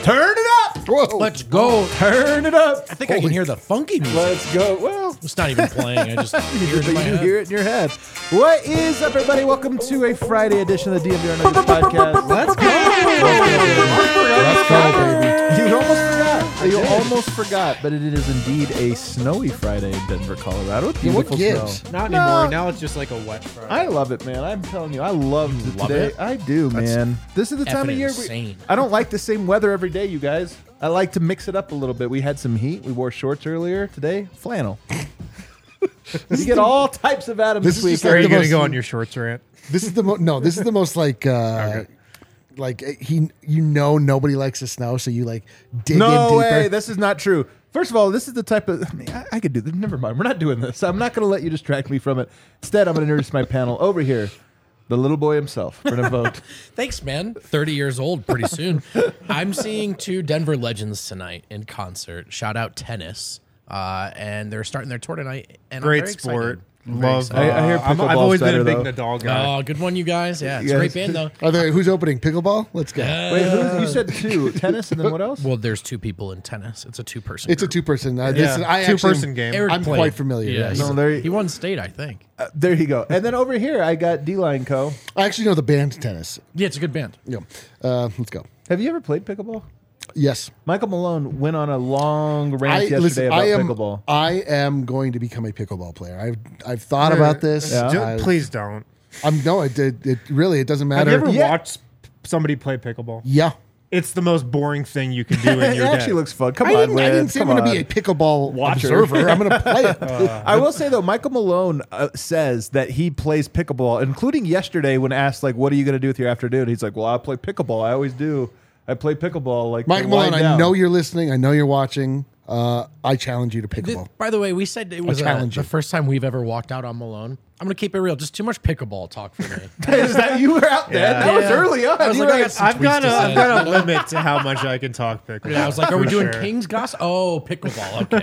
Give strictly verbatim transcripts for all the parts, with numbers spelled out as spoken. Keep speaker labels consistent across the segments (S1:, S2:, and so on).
S1: Turn it up.
S2: Whoa.
S3: Let's go.
S1: Turn it up.
S3: I think I can hear the funky music.
S1: Let's go. Well,
S3: It's not even playing. I just hear it in my
S1: you
S3: head.
S1: hear it in your head. What is up, everybody? Welcome to a Friday edition of the D M V R Nuggets podcast. Let's go.
S2: Let's go, baby.
S1: You almost forgot. You almost forgot, but it is indeed a snowy Friday in Denver, Colorado. It's
S2: Yeah, what
S1: beautiful
S2: gives?
S1: snow.
S4: Not
S1: No.
S4: anymore. Now it's just like a wet Friday.
S1: I love it, man. I'm telling you, I loved
S3: You
S1: it
S3: love
S1: today.
S3: it?
S1: I do, man. This is the time
S3: Effing
S1: of year.
S3: insane.
S1: We, I don't like the same weather every day, you guys. I like to mix it up a little bit. We had some heat. We wore shorts earlier today. Flannel. You get all types of Adams
S2: This
S1: this
S2: is just
S1: week.
S4: Are
S2: like
S4: you
S2: the
S4: going to
S2: most-
S4: go on your shorts rant?
S2: This is the mo- no. This is the most like uh, like uh, he. You know, nobody likes the snow, so you like dig in
S1: No
S2: deeper.
S1: way. This is not true. First of all, this is the type of. I, mean, I, I could do this. Never mind. We're not doing this. I'm not going to let you distract me from it. Instead, I'm going to introduce my panel over here. The little boy himself. We're going to vote.
S3: Thanks, man. thirty years old pretty soon. I'm seeing two Denver legends tonight in concert. Shout out Tennis. Uh, and they're starting their tour tonight. And I'm
S4: Great
S3: very
S4: sport.
S3: excited.
S4: Love.
S3: excited.
S1: I- I hear
S4: uh, I'm- I've
S1: pickleball's
S4: always been
S1: better,
S4: a big
S1: though.
S4: Nadal guy.
S3: Oh, good one, you guys. Yeah, it's
S1: You
S3: a
S1: guys-
S3: great band, though.
S2: Are there, who's opening pickleball? Let's go.
S1: Wait, who, you said two. Tennis and then what else?
S3: Well, there's two people in tennis. It's a two-person
S2: It's a
S3: group.
S2: two-person. Uh, this
S4: Yeah,
S2: is, I
S4: two-person
S2: actually,
S4: game.
S3: Eric
S2: I'm
S3: played.
S2: quite familiar.
S3: Yeah,
S2: yes.
S3: he's-
S1: No, there-
S3: he won state, I think.
S1: Uh, there you go. And then over here, I got D-Line Co.
S2: I actually know the band Tennis.
S3: Yeah, it's a good band.
S2: Yeah. Uh, let's go.
S1: Have you ever played pickleball?
S2: Yes.
S1: Michael Malone went on a long rant
S2: I,
S1: yesterday
S2: listen,
S1: about
S2: I am,
S1: pickleball.
S2: I am going to become a pickleball player. I've I've thought
S4: Sure.
S2: about this.
S1: Yeah.
S4: Ju-
S2: I-
S4: Please don't.
S2: I'm no. It, it, it really it doesn't
S4: Have
S2: matter.
S4: you ever
S1: Yeah.
S4: watched somebody play pickleball?
S2: yeah.
S4: It's the most boring thing you can do in
S1: It
S4: your
S1: actually
S4: day.
S1: looks fun. Come
S2: I
S1: on,
S2: didn't, I
S1: Win.
S2: didn't say I'm
S1: Come
S2: going to be
S1: on.
S2: a pickleball
S1: Watcher.
S2: observer. I'm going to play it.
S1: I will say though, Michael Malone uh, says that he plays pickleball, including yesterday when asked like, "What are you going to do with your afternoon?" He's like, "Well, I play pickleball. I always do. I play pickleball." Like
S2: Mike
S1: to
S2: Malone,
S1: wind
S2: I
S1: down."
S2: know you're listening. I know you're watching. Uh, I challenge you to
S3: Th-
S2: pickleball.
S3: By the way, we said it was uh,
S2: challenge
S3: the
S2: you.
S3: first time we've ever walked out on Malone. I'm going to keep it real. Just too much pickleball talk for me.
S1: Is that you were out there?
S4: Yeah.
S1: That was
S3: Yeah.
S1: early on.
S3: I was
S1: You
S3: like,
S1: were
S3: I
S1: like,
S3: got some
S4: I've
S3: tweets
S4: got
S3: to
S4: a,
S3: send.
S4: I've got a limit to how much I can talk pickleball.
S3: Yeah, I was like, are we
S4: For
S3: doing
S4: sure.
S3: King's Goss? Oh, pickleball.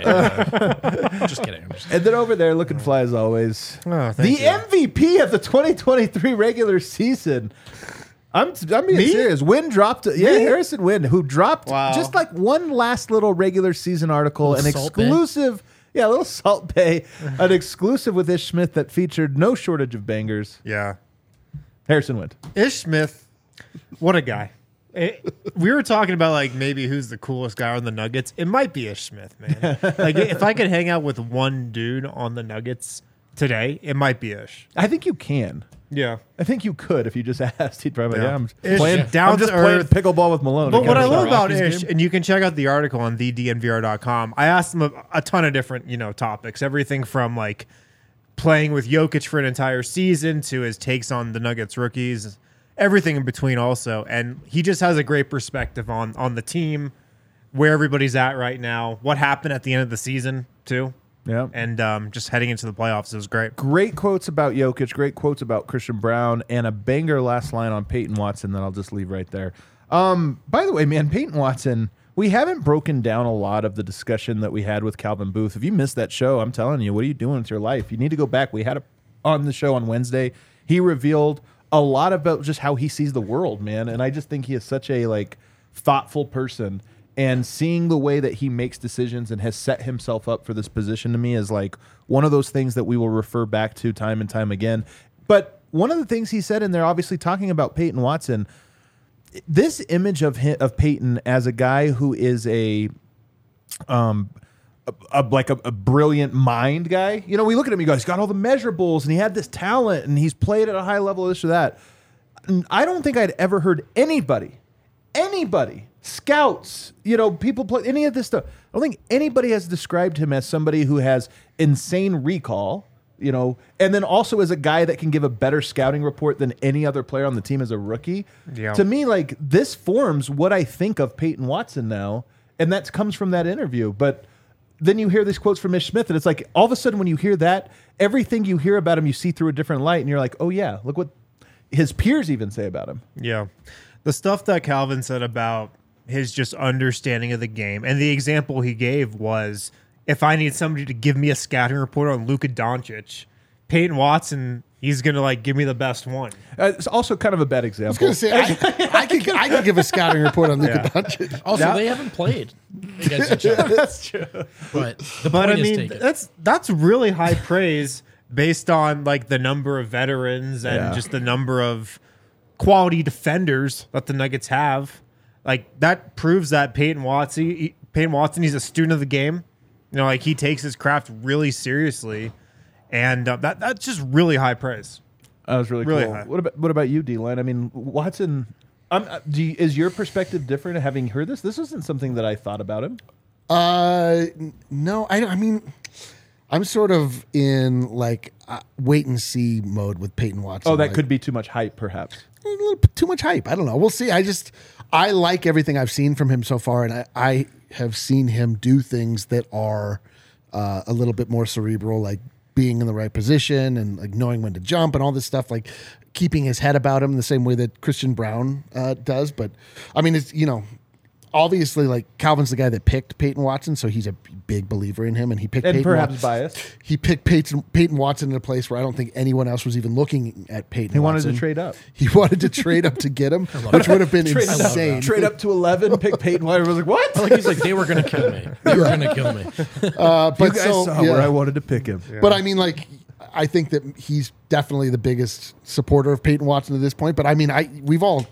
S3: Okay. Just kidding. I'm just-
S1: and then over there, looking fly as always.
S4: Oh, thank
S1: the
S4: you.
S1: M V P of the twenty twenty-three regular season. I'm I'm being
S4: Me?
S1: serious. Wynn dropped, yeah, Harrison Wynn, who dropped
S4: Wow.
S1: just like one last little regular season article, an
S3: Little Salt Bae.
S1: exclusive, yeah, a little Salt Bay, an exclusive with Ish Smith that featured no shortage of bangers.
S4: Yeah.
S1: Harrison Wynn.
S4: Ish Smith, what a guy. It- we were talking about like maybe who's the coolest guy on the Nuggets. It might be Ish Smith, man. Like if I could hang out with one dude on the Nuggets today, it might be Ish.
S1: I think you can.
S4: Yeah.
S1: I think you could if you just asked. He'd probably,
S4: Yeah.
S1: yeah, I'm just
S4: Ish,
S1: playing,
S4: down
S1: I'm just
S4: to
S1: playing
S4: earth.
S1: pickleball with Malone.
S4: But what I
S1: against
S4: love
S1: the
S4: about
S1: Rockies
S4: Ish,
S1: game.
S4: and you can check out the article on the D N V R dot com. I asked him a, a ton of different, you know, topics. Everything from like playing with Jokic for an entire season to his takes on the Nuggets rookies, everything in between also. And he just has a great perspective on on the team, where everybody's at right now, what happened at the end of the season too.
S1: Yeah.
S4: And um, just heading into the playoffs, it was great.
S1: Great quotes about Jokic, great quotes about Christian Brown, and a banger last line on Peyton Watson that I'll just leave right there. Um, by the way, man, Peyton Watson, we haven't broken down a lot of the discussion that we had with Calvin Booth. If you missed that show, I'm telling you, what are you doing with your life? You need to go back. We had it on the show on Wednesday. He revealed a lot about just how he sees the world, man. And I just think he is such a like thoughtful person. And seeing the way that he makes decisions and has set himself up for this position to me is like one of those things that we will refer back to time and time again. But one of the things he said in there, obviously talking about Peyton Watson, this image of him, of Peyton as a guy who is a, um, a, a- like a, a brilliant mind guy. You know, we look at him, he goes, he's got all the measurables and he had this talent and he's played at a high level, this or that. I don't think I'd ever heard anybody, anybody, scouts, you know, people play any of this stuff. I don't think anybody has described him as somebody who has insane recall, you know, and then also as a guy that can give a better scouting report than any other player on the team as a rookie.
S4: Yeah.
S1: To me, like this forms what I think of Peyton Watson now, and that comes from that interview. But then you hear these quotes from Ish Smith, and it's like all of a sudden when you hear that, everything you hear about him, you see through a different light, and you're like, oh yeah, look what his peers even say about him.
S4: Yeah. The stuff that Calvin said about his just understanding of the game, and the example he gave was if I need somebody to give me a scouting report on Luka Doncic Peyton Watson, he's gonna like give me the best one.
S1: Uh, it's also kind of a bad example.
S2: I was gonna say I, I could I could give a scouting report on Luka
S4: Yeah.
S2: Doncic.
S3: Also,
S4: That-
S3: they haven't played against each other.
S1: That's true.
S3: But the
S4: But
S3: point
S4: I
S3: is
S4: mean,
S3: taken.
S4: that's that's really high praise based on like the number of veterans and
S1: Yeah.
S4: just the number of quality defenders that the Nuggets have. Like that proves that Peyton Watson, he, Peyton Watson, he's a student of the game. You know, like he takes his craft really seriously, and uh, that that's just really high praise.
S1: That was really,
S4: Really
S1: cool.
S4: high.
S1: What about what about you, D-Line? I mean, Watson. Um, uh, do you, is your perspective different having heard this? This isn't something that I thought about him.
S2: Uh, n- no, I, I mean, I'm sort of in like uh, wait and see mode with Peyton Watson.
S1: Oh, that
S2: Like,
S1: could be too much hype, perhaps.
S2: a little p- too much hype. I don't know. We'll see. I just I like everything I've seen from him so far, and I, I have seen him do things that are uh, a little bit more cerebral, like being in the right position and like knowing when to jump and all this stuff, like keeping his head about him the same way that Christian Brown uh, does. But I mean, it's you know. Obviously, like Calvin's the guy that picked Peyton Watson, so he's a big believer in him, and he picked
S1: And
S2: Peyton
S1: perhaps
S2: Watson.
S1: biased.
S2: He picked Peyton, Peyton Watson in a place where I don't think anyone else was even looking at Peyton.
S1: He wanted
S2: Watson.
S1: to trade up.
S2: He wanted to trade up to get him, which would have been
S1: Trade up,
S2: insane.
S1: trade up to eleven, pick Peyton. I was like, what?
S3: like he's like, they were gonna kill me. They were gonna kill me.
S2: Uh, but
S1: you guys
S2: so,
S1: saw
S2: yeah.
S1: where I wanted to pick him.
S2: But I mean, like, I think that he's definitely the biggest supporter of Peyton Watson at this point. But I mean, I we've all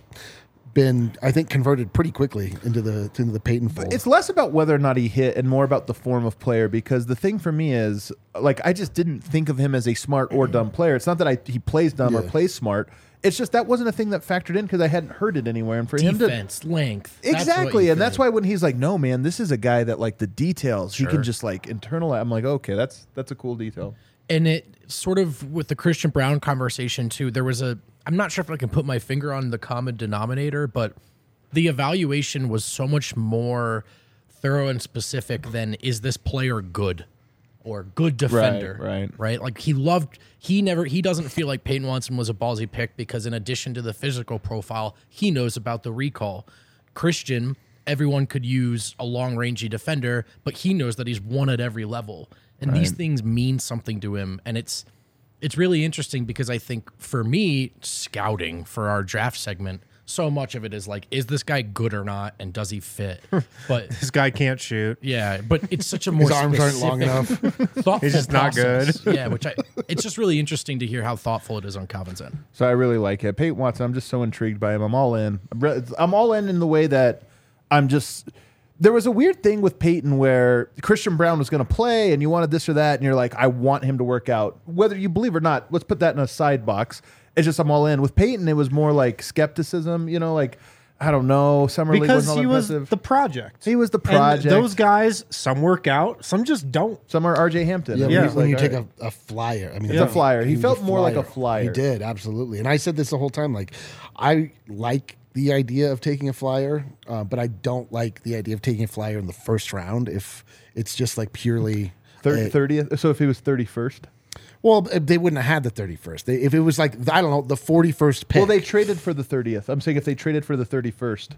S2: been, I think, converted pretty quickly into the into the Peyton fold.
S1: It's less about whether or not he hit and more about the form of player, because the thing for me is, like, I just didn't think of him as a smart or dumb player. It's not that I he plays dumb or
S2: Yeah.
S1: plays smart. It's just that wasn't a thing that factored in because I hadn't heard it anywhere. And for him to
S3: Defense, length. that's what
S1: exactly,
S3: you
S1: and that's
S3: think.
S1: why when he's like, "No, man, this is a guy that like the details he
S3: Sure.
S1: can just like internalize." I'm like, okay, that's that's a cool detail.
S3: And it sort of with the Christian Brown conversation too, there was a, I'm not sure if I can put my finger on the common denominator, but the evaluation was so much more thorough and specific than is this player good or good defender,
S1: right.
S3: right? Like he loved, he never, he doesn't feel like Peyton Watson was a ballsy pick because in addition to the physical profile, he knows about the recall. Christian, everyone could use a long rangey defender, but he knows that he's one at every level. And these things mean something to him. And it's it's really interesting because I think for me, scouting for our draft segment, so much of it is like, is this guy good or not? And does he fit? But
S4: This guy can't shoot.
S3: yeah, but it's such a more
S2: His arms aren't
S3: specific,
S2: long enough.
S3: thoughtful
S4: He's just not
S3: process. Yeah, which I it's just really interesting to hear how thoughtful it is on Calvin's end.
S1: So I really like it. Peyton Watson, I'm just so intrigued by him. I'm all in. I'm re- I'm all in in the way that I'm just. There was a weird thing with Peyton where Christian Brown was going to play and you wanted this or that, and you're like, I want him to work out. Whether you believe or not, let's put that in a side box. It's just I'm all in. With Peyton, it was more like skepticism, you know, like, I don't know. Summer League
S4: Because
S1: wasn't all
S4: he was
S1: impressive.
S4: the project.
S1: He was the
S4: And
S1: project.
S4: those guys, some work out, some just don't.
S1: Some are R J Hampton.
S2: Yeah,
S1: And
S2: when,
S1: he's
S2: you, when
S1: like,
S2: you
S1: all
S2: take
S1: right.
S2: a, a flyer, I mean,
S1: It's a flyer. He
S2: was
S1: felt more like a flyer.
S2: He did, absolutely. And I said this the whole time. Like, I like the idea of taking a flyer, uh, but I don't like the idea of taking a flyer in the first round if it's just like purely
S1: Thir-
S2: uh,
S1: thirtieth. So if he was thirty-first.
S2: well, they wouldn't have had the thirty-first. They, if it was like, I don't know, the forty-first pick.
S1: Well, they traded for the thirtieth. I'm saying if they traded for the thirty-first.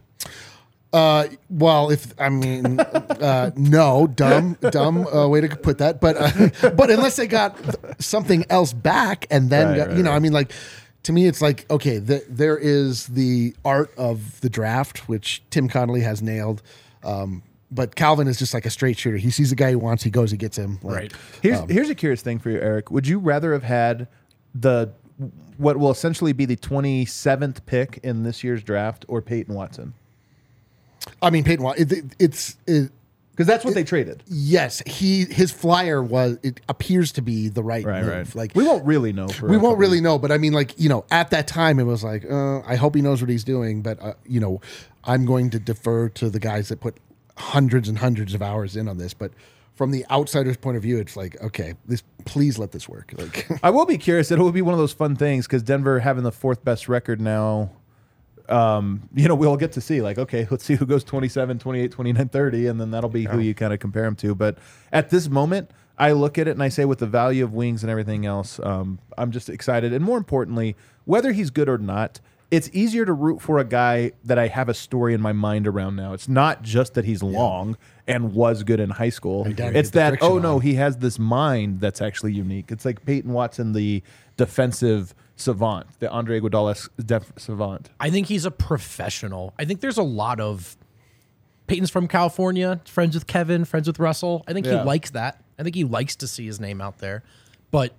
S2: Uh, well, if I mean, uh, no, dumb, dumb uh, way to put that. But uh, but unless they got something else back, and then
S1: Right,
S2: got,
S1: right,
S2: you know,
S1: right.
S2: I mean, like to me, it's like okay, the, there is the art of the draft, which Tim Connolly has nailed. Um, but Calvin is just like a straight shooter. He sees the guy he wants, he goes, he gets him. Like,
S3: Right.
S1: Here's here's a curious thing for you, Eric. Would you rather have had the what will essentially be the twenty-seventh pick in this year's draft or Peyton Watson?
S2: I mean, Peyton, Wa- it, it, it's it,
S1: Because that's what they traded.
S2: yes, he his flyer was it appears to be the right move. Like
S1: we won't really know. For
S2: we
S1: a
S2: won't
S1: couple
S2: really know, but I mean, like, you know, at that time, it was like, uh, I hope he knows what he's doing, but, uh, you know, I'm going to defer to the guys that put hundreds and hundreds of hours in on this. But from the outsider's point of view, it's like, okay, this please let this work. Like,
S1: I will be curious. It will be one of those fun things because Denver having the fourth best record now. Um, you know, we'll get to see like, okay, let's see who goes twenty-seven, twenty-eight, twenty-nine, thirty, and then that'll be who you kind of compare them to. But at this moment, I look at it and I say with the value of wings and everything else, um, I'm just excited. And more importantly, whether he's good or not, it's easier to root for a guy that I have a story in my mind around now. It's not just that he's long and was good in high school.
S2: Right, down,
S1: It's
S2: get the
S1: that,
S2: friction
S1: oh no,
S2: on.
S1: he has this mind that's actually unique. It's like Peyton Watson, the defensive savant, the Andre Iguodala def- savant.
S3: I think he's a professional. I think there's a lot of Peyton's from California, friends with Kevin, friends with Russell. I think
S1: Yeah.
S3: he likes that. I think he likes to see his name out there. But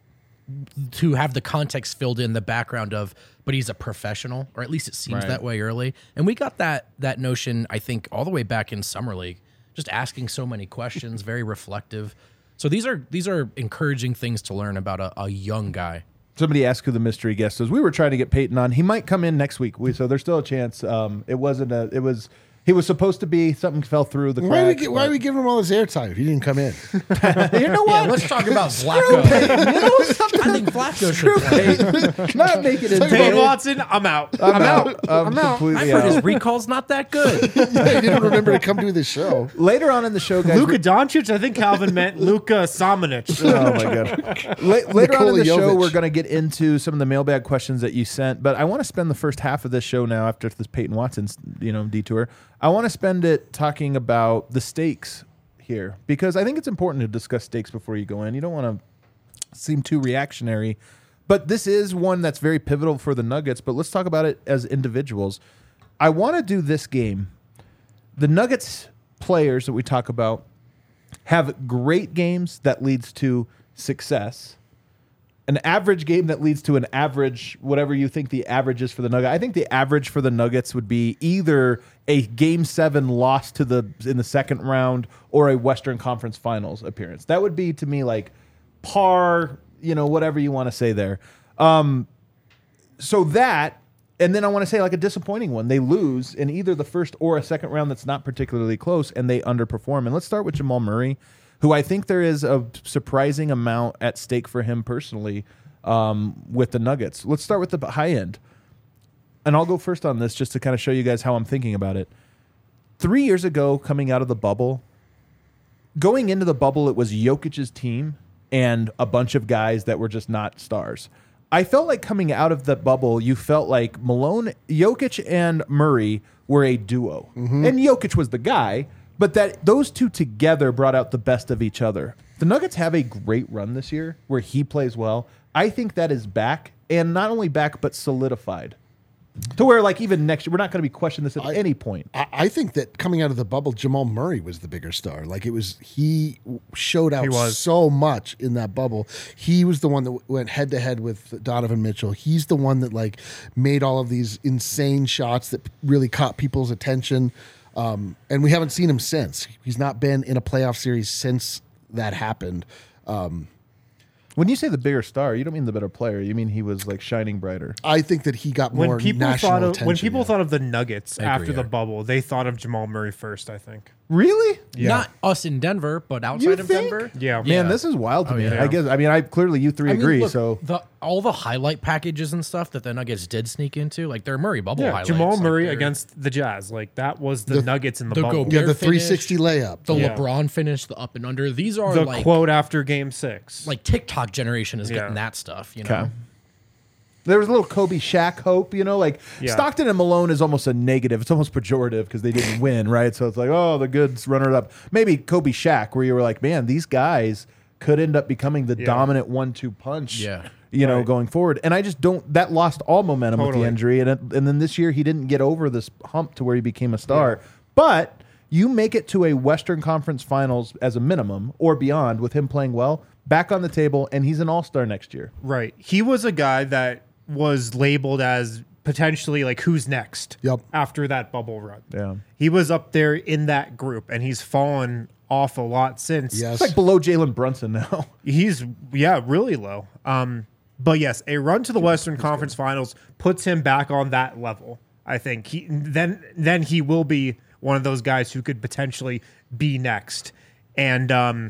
S3: to have the context filled in the background of, but he's a professional, or at least it seems
S1: Right.
S3: that way early. And we got that that notion, I think, all the way back in Summer League, just asking so many questions, very reflective. So these are these are encouraging things to learn about a, a young guy.
S1: Somebody asked who the mystery guest is. We were trying to get Peyton on. He might come in next week. We, so there's still a chance. Um, it wasn't a. It was. He was supposed to be. Something fell through the
S2: Why are, we,
S1: cracks.
S2: gi- why are we giving him all this airtime if he didn't come in?
S1: but- you know what?
S3: Yeah, let's talk about Flacco. I think Flacco should play.
S1: Not make it into
S4: Peyton Watson, I'm out.
S1: I'm out. I'm,
S3: I've
S1: completely
S3: heard his
S1: out.
S3: recall's not that good.
S2: He didn't remember to come do the show.
S1: Later on in the show, guys.
S4: Luka Doncic, I think Calvin meant Luka Samanic.
S1: Oh my god! La- later on in
S2: Nikola
S1: the show,
S2: Jovic.
S1: we're going to get into some of the mailbag questions that you sent, but I want to spend the first half of this show now, after this Peyton Watson's you know detour. I want to spend it talking about the stakes here, because I think it's important to discuss stakes before you go in. You don't want to seem too reactionary, but this is one that's very pivotal for the Nuggets. But let's talk about it as individuals. I want to do this game. The Nuggets players that we talk about have great games that leads to success, an average game that leads to an average, whatever you think the average is for the Nuggets. I think the average for the Nuggets would be either a game seven loss to the in the second round or a Western Conference Finals appearance. That would be to me like par, you know, whatever you want to say there. Um, so that, and then I want to say like a disappointing one. They lose in either the first or a second round that's not particularly close, and they underperform. And let's start with Jamal Murray, who I think there is a surprising amount at stake for him personally um, with the Nuggets. Let's start with the high end. And I'll go first on this just to kind of show you guys how I'm thinking about it. Three years ago, coming out of the bubble, going into the bubble, it was Jokic's team and a bunch of guys that were just not stars. I felt like coming out of the bubble, you felt like Malone, Jokic and Murray were a duo. And Jokic was the guy, but that those two together brought out the best of each other. The Nuggets have a great run this year where he plays well. I think that is back, and not only back, but solidified. To where, like, even next year, we're not going to be questioning this at
S2: I-
S1: any point.
S2: I, I think that coming out of the bubble, Jamal Murray was the bigger star. Like it was, he showed out
S4: He was.
S2: so much in that bubble. He was the one that went head to head with Donovan Mitchell. He's the one that like made all of these insane shots that really caught people's attention. Um, and we haven't seen him since. He's not been in a playoff series since that happened. Um,
S1: When you say the bigger star, you don't mean the better player. You mean he was, like, shining brighter.
S2: I think that he got more
S4: When people
S2: national
S4: thought of
S2: attention.
S4: when people
S2: yeah.
S4: thought of the Nuggets
S3: agree,
S4: after the
S3: Eric.
S4: bubble, they thought of Jamal Murray first. I think.
S1: Really?
S4: Yeah.
S3: Not us in Denver, but
S1: You
S3: outside of
S1: think?
S3: Denver.
S4: Yeah.
S1: Man, this is wild to
S3: Oh,
S1: me.
S3: yeah.
S1: I guess. I mean, I clearly you three
S3: I mean,
S1: agree.
S3: look,
S1: so
S3: the all the highlight packages and stuff that the Nuggets did sneak into, like their Murray bubble
S4: Yeah,
S3: highlights.
S4: Jamal
S3: like
S4: Murray
S3: their-
S4: against the Jazz, like that was the,
S2: The-
S4: Nuggets in the,
S3: the
S4: bubble.
S3: Gobert
S2: yeah, the
S3: finish,
S2: three sixty layup.
S3: the
S4: Yeah.
S3: LeBron finish, the up and under. These are
S4: The
S3: like
S4: quote after Game Six.
S3: like TikTok generation is
S4: Yeah.
S3: getting that stuff. You know,
S1: Okay. There was a little Kobe Shaq hope, you know, like
S4: Yeah.
S1: Stockton and Malone is almost a negative. It's almost pejorative because they didn't win, right? So it's like, oh, the goods runner up. Maybe Kobe Shaq, where you were like, man, these guys could end up becoming the
S4: Yeah.
S1: dominant one two punch,
S3: Yeah.
S1: you know,
S4: Right.
S1: going forward. And I just don't, that lost all momentum with
S4: Totally.
S1: the injury. And, it, and then this year he didn't get over this hump to where he became a star. But you make it to a Western Conference Finals as a minimum or beyond with him playing well, back on the table, and he's an all-star next year.
S4: Right. He was a guy that was labeled as potentially like who's next
S2: Yep.
S4: after that bubble run.
S1: Yeah.
S4: He was up there in that group and he's fallen off a lot since.
S2: Yes.
S1: It's like below Jalen Brunson now.
S4: He's yeah, really low. Um but yes, a run to the Western Conference Finals puts him back on that level. I think he then then he will be one of those guys who could potentially be next. And um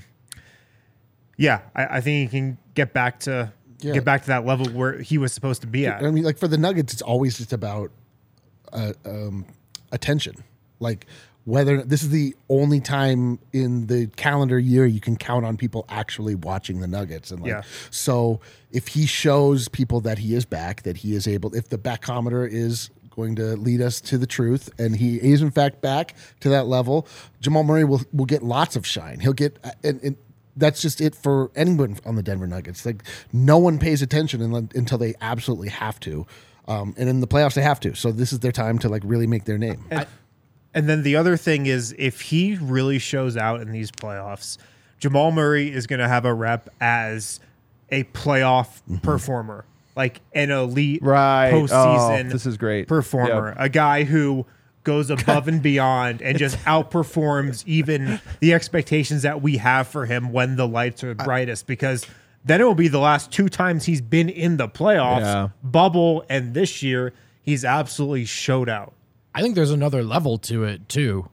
S4: yeah, I, I think he can get back to
S2: Yeah.
S4: get back to that level where he was supposed to be at.
S2: I mean, like for the Nuggets, it's always just about uh, um, attention. Like whether this is the only time in the calendar year you can count on people actually watching the Nuggets. And like,
S4: Yeah.
S2: so if he shows people that he is back, that he is able, if the backometer is going to lead us to the truth, and he is in fact back to that level, Jamal Murray will will get lots of shine. He'll get, and, and that's just it for anyone on the Denver Nuggets. Like no one pays attention until, until they absolutely have to, um, and in the playoffs they have to. So this is their time to like really make their name.
S4: And, and then the other thing is, if he really shows out in these playoffs, Jamal Murray is going to have a rep as a playoff
S2: Mm-hmm.
S4: performer, like an elite
S1: Right.
S4: postseason
S1: Oh, this is great.
S4: performer,
S1: Yep.
S4: a guy who goes above and beyond and just outperforms even the expectations that we have for him when the lights are brightest, because then it will be the last two times he's been in the playoffs,
S1: Yeah.
S4: bubble, and this year he's absolutely showed out.
S3: I think there's another level to it too.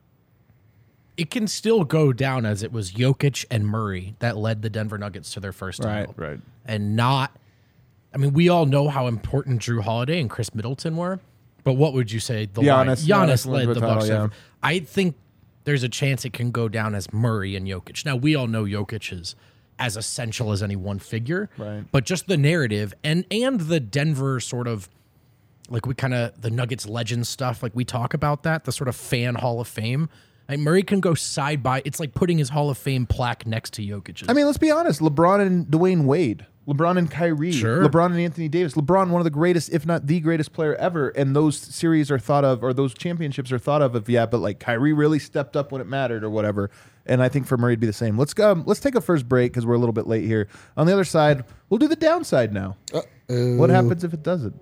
S3: It can still go down as it was Jokic and Murray that led the Denver Nuggets to their first title.
S1: Right, right.
S3: And not, I mean, we all know how important Drew Holiday and Chris Middleton were, but what would you say? The line-
S1: Giannis-
S3: Giannis,
S1: Giannis
S3: led
S1: wins
S3: the
S1: the
S3: Bucks.
S1: title, yeah.
S3: I think there's a chance it can go down as Murray and Jokic. Now, we all know Jokic is as essential as any one figure,
S1: Right.
S3: but just the narrative and and the Denver sort of, like we kind of, the Nuggets legend stuff, like we talk about that, the sort of fan Hall of Fame. Like Murray can go side by, it's like putting his Hall of Fame plaque next to Jokic's.
S1: I mean, let's be honest. LeBron and Dwayne Wade, LeBron and Kyrie,
S3: Sure.
S1: LeBron and Anthony Davis. LeBron, one of the greatest, if not the greatest player ever. And those series are thought of, or those championships are thought of, of yeah, but like Kyrie really stepped up when it mattered or whatever. And I think for Murray to be the same. Let's go. Let's take a first break because we're a little bit late here. On the other side, we'll do the downside now.
S2: Uh-oh.
S1: What happens if it doesn't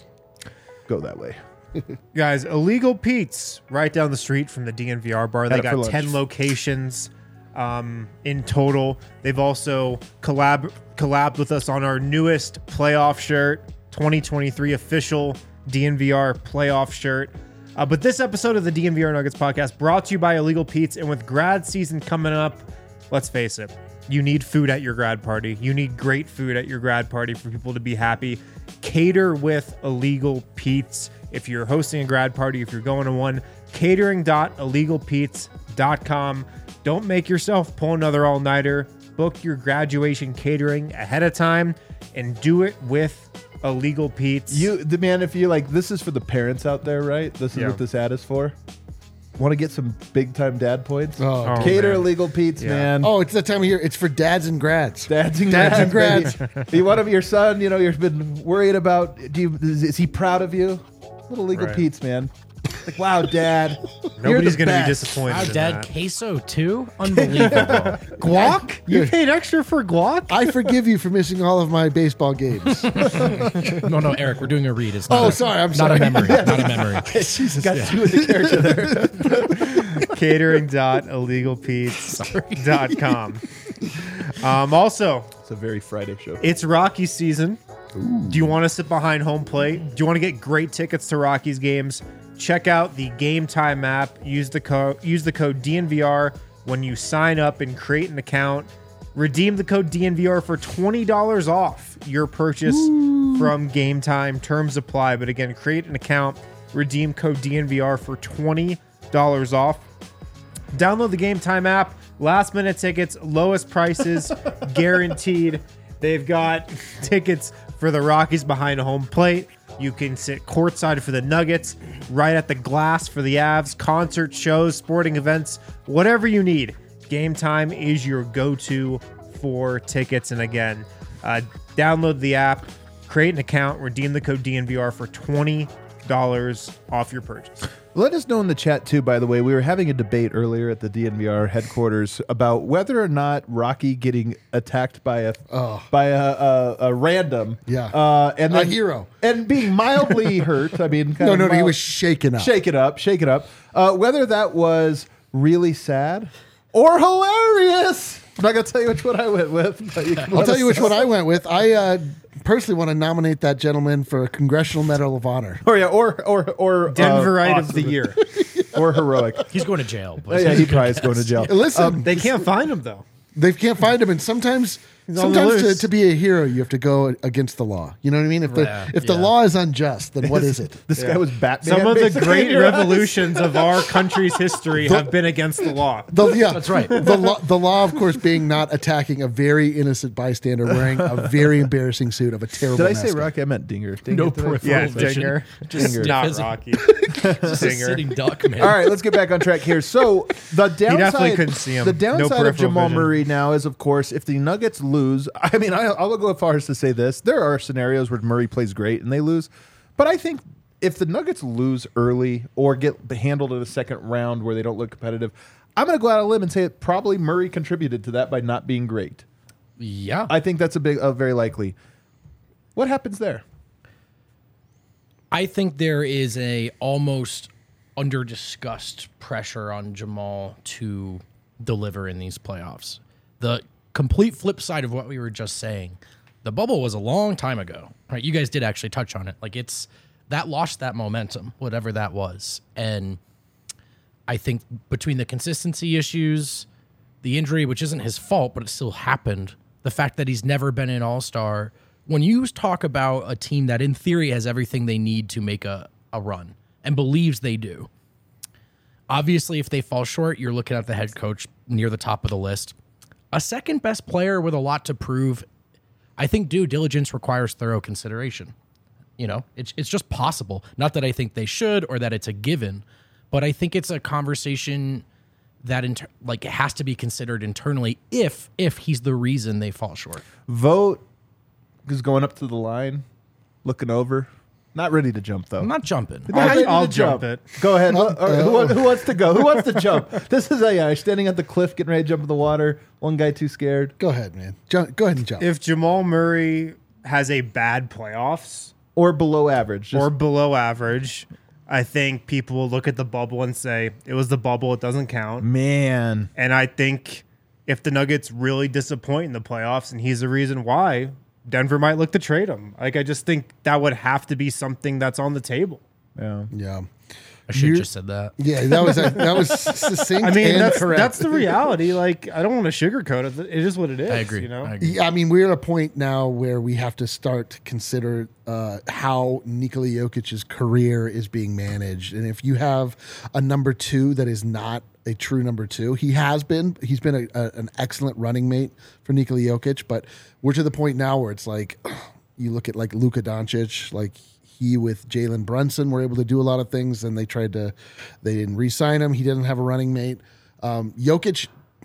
S1: go that way?
S4: Guys, Illegal Pete's right down the street from the D N V R bar. They
S1: Had it for
S4: got
S1: lunch.
S4: ten locations um, in total. They've also collab collabed with us on our newest playoff shirt, twenty twenty-three official D N V R playoff shirt. Uh, but this episode of the D N V R Nuggets podcast brought to you by Illegal Pete's, and with grad season coming up, let's face it, you need food at your grad party. You need great food at your grad party for people to be happy. Cater with Illegal Pete's. If you're hosting a grad party, if you're going to one, catering dot illegal pete's dot com. Don't make yourself pull another all-nighter. Book your graduation catering ahead of time and do it with Illegal Pete's.
S1: You, the man, if you like, this is for the parents out there, right? This is
S4: Yeah.
S1: what this ad is for. Want to get some big time dad points?
S2: Oh,
S4: Oh,
S1: Cater
S4: man.
S1: Illegal Pete's,
S4: Yeah.
S1: man.
S2: Oh, it's that time of year. It's for dads and grads.
S1: Dads and
S2: Dads and
S1: grads. baby. You want him, your son, you know, you've been worried about, do you, is, is he proud of you? Little Legal
S4: Right.
S1: Pete's, man. Like, wow, Dad.
S4: Nobody's going to be
S1: best.
S4: disappointed.
S3: Wow,
S4: in
S3: Dad,
S4: that.
S3: queso too? Unbelievable.
S4: Guac? You paid extra for guac?
S2: I forgive you for missing all of my baseball games.
S3: no, no, Eric, we're doing a read. It's not
S2: Oh,
S3: a,
S2: sorry, I'm
S3: not
S2: sorry.
S3: a memory. Not a memory.
S2: Jesus.
S1: Got two in the character there.
S4: catering dot illegal pete's dot com. Um, also,
S1: It's a very Friday show.
S4: it's Rocky season. Do you want to sit behind home plate? Do you want to get great tickets to Rockies games? Check out the Game Time app. Use the code use the code D N V R when you sign up and create an account. Redeem the code D N V R for twenty dollars off your purchase from Game Time. Terms apply, but again, create an account, redeem code D N V R for twenty dollars off. Download the Game Time app. Last minute tickets, lowest prices, guaranteed. They've got tickets for the Rockies behind home plate. You can sit courtside for the Nuggets, right at the glass for the Avs, concert shows, sporting events, whatever you need. Game Time is your go-to for tickets. And again, uh, download the app, create an account, redeem the code D N V R for twenty dollars off your purchase.
S1: Let us know in the chat, too, by the way. We were having a debate earlier at the D N V R headquarters about whether or not Rocky getting attacked by a
S2: Oh.
S1: by a, a, a random.
S2: Yeah.
S1: Uh, and
S2: A
S1: then,
S2: hero.
S1: And being mildly hurt. I mean, kind
S2: No,
S1: of
S2: no, no. He
S1: mild-
S2: was shaken up.
S1: Shake it up, shake it up. Uh, whether that was really sad or hilarious. I'm not going to tell you which one I went with. But you can
S2: I'll
S1: let
S2: tell
S1: us
S2: you which
S1: know.
S2: one I went with. I uh, personally want to nominate that gentleman for a Congressional Medal of Honor.
S1: Or, yeah, or, or, or. uh,
S4: Denverite of the
S1: awesome.
S4: year.
S1: Or heroic.
S3: He's going to jail.
S1: Oh,
S3: But
S1: yeah, he probably is going to jail.
S2: Listen,
S4: They can't find him, though.
S2: they can't find him, and sometimes
S4: He's on the
S2: sometimes to,
S4: loose.
S2: to be a hero, you have to go against the law. You know what I mean? If the
S3: Yeah.
S2: if the
S3: Yeah.
S2: law is unjust, then what is it?
S1: This guy was Batman.
S4: Some of the
S1: basically,
S4: great
S1: in your eyes.
S4: revolutions of our country's history have been against the law.
S2: The, yeah,
S3: That's right.
S2: The law, the law, of course, being not attacking a very innocent bystander wearing a very embarrassing suit of a terrible.
S1: Did I say
S2: mascot.
S1: Rocky? I meant Dinger. Dinger
S3: No
S1: did I?
S3: peripheral
S4: Yeah,
S3: vision.
S4: Dinger.
S3: Just
S1: Dinger.
S4: Not
S3: stiff as a-
S4: Rocky.
S3: just a
S4: Dinger.
S3: sitting duck, man.
S1: All right, let's get back on track here. So the downside,
S4: definitely couldn't see him.
S1: The
S4: No
S1: downside of
S4: peripheral
S1: Jamal
S4: vision.
S1: Murray now is, of course, if the Nuggets lose. I mean, I, I'll go as far as to say this: there are scenarios where Murray plays great and they lose, but I think if the Nuggets lose early or get handled in the second round where they don't look competitive, I'm going to go out on a limb and say that probably Murray contributed to that by not being great.
S3: Yeah.
S1: I think that's a big, uh, very likely. What happens there?
S3: I think there is a almost under discussed pressure on Jamal to deliver in these playoffs. The complete flip side of what we were just saying, the bubble was a long time ago, right? You guys did actually touch on it. Like it's that lost that momentum, whatever that was. And I think between the consistency issues, the injury, which isn't his fault, but it still happened, the fact that he's never been an all-star, when you talk about a team that in theory has everything they need to make a, a run and believes they do, obviously if they fall short, you're looking at the head coach near the top of the list. A second best player with a lot to prove, I think due diligence requires thorough consideration. You know, it's it's just possible. Not that I think they should or that it's a given, but I think it's a conversation that inter- like it has to be considered internally if if he's the reason they fall short.
S1: Vote is going up to the line, looking over. Not ready to jump, though.
S3: I'm not jumping.
S1: Not ready to
S4: I'll jump it.
S1: Go ahead. All right, who, wa- who wants to go? Who wants to jump? This is a guy standing at the cliff, getting ready to jump in the water. One guy too scared.
S2: Go ahead, man. Jump, go ahead and jump.
S4: If Jamal Murray has a bad playoffs
S1: Or below average. Just,
S4: or below average, I think people will look at the bubble and say, it was the bubble, it doesn't count.
S1: man.
S4: And I think if the Nuggets really disappoint in the playoffs and he's the reason why, Denver might look to trade him. Like, I just think that would have to be something that's on the table.
S1: Yeah.
S2: yeah.
S3: I should have
S2: You're-
S3: just said that.
S2: Yeah, that was that was succinct
S4: I mean,
S2: and
S4: that's
S2: correct.
S4: that's the reality. Like, I don't want to sugarcoat it. It is what it is.
S3: I agree.
S4: You know,
S3: I agree.
S2: Yeah, I mean, we're at a point now where we have to start to consider uh, how Nikola Jokic's career is being managed. And if you have a number two that is not a true number two, he has been. He's been a, a, an excellent running mate for Nikola Jokic, but we're to the point now where it's like you look at like Luka Doncic, like he with Jalen Brunson were able to do a lot of things, and they tried to, they didn't re-sign him. He doesn't have a running mate. Um, Jokic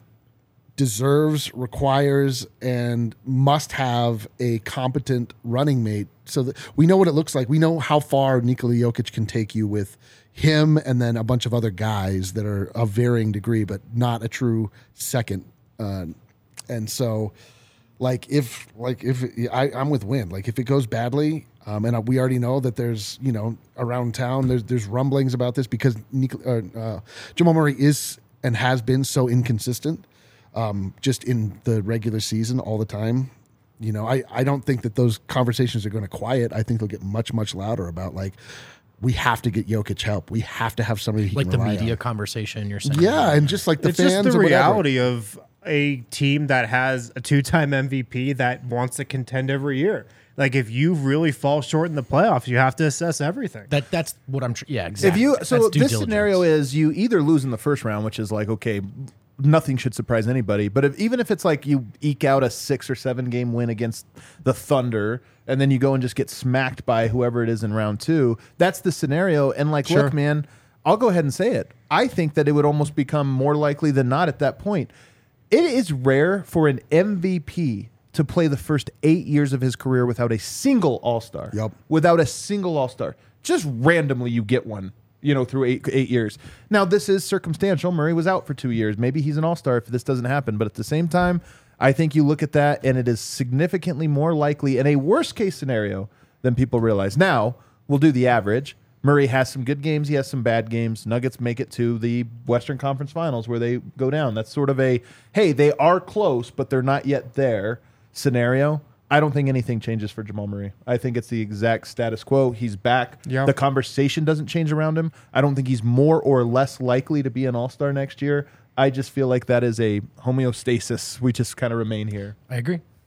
S2: deserves, requires, and must have a competent running mate so that we know what it looks like. We know how far Nikola Jokic can take you with him and then a bunch of other guys that are of varying degree, but not a true second. Uh, and so, like if like if I, I'm with Win, like if it goes badly, um, and we already know that there's you know around town there's there's rumblings about this because Nik- uh, uh, Jamal Murray is and has been so inconsistent. Um, just in the regular season all the time. You know, I, I don't think that those conversations are going to quiet. I think they'll get much, much louder about like, we have to get Jokic help. We have to have somebody he
S3: Like
S2: can
S3: the
S2: rely
S3: media
S2: on.
S3: conversation you're saying.
S2: Yeah, and just like the
S4: it's
S2: fans
S4: just the
S2: or whatever.
S4: reality of a team that has a two-time M V P that wants to contend every year. Like, if you really fall short in the playoffs, you have to assess everything.
S3: That that's what I'm tr- yeah, exactly.
S1: If you
S3: That's
S1: so
S3: due
S1: this
S3: diligence.
S1: scenario is you either lose in the first round, which is like okay, nothing should surprise anybody. But if, even if it's like you eke out a six or seven game win against the Thunder, and then you go and just get smacked by whoever it is in round two, that's the scenario. And like,
S4: Sure.
S1: look, man, I'll go ahead and say it. I think that it would almost become more likely than not at that point. It is rare for an M V P to play the first eight years of his career without a single All-Star.
S2: Yep.
S1: Without a single All-Star. Just randomly you get one, you know, through eight eight years. Now, this is circumstantial. Murray was out for two years. Maybe he's an All-Star if this doesn't happen. But at the same time, I think you look at that, and it is significantly more likely in a worst-case scenario than people realize. Now, we'll do the average. Murray has some good games. He has some bad games. Nuggets make it to the Western Conference Finals where they go down. That's sort of a, hey, they are close, but they're not yet there scenario. I don't think anything changes for Jamal Murray. I think it's the exact status quo. He's back.
S4: Yeah.
S1: The conversation doesn't change around him. I don't think he's more or less likely to be an all-star next year. I just feel like that is a homeostasis. We just kind of remain here.
S3: I agree.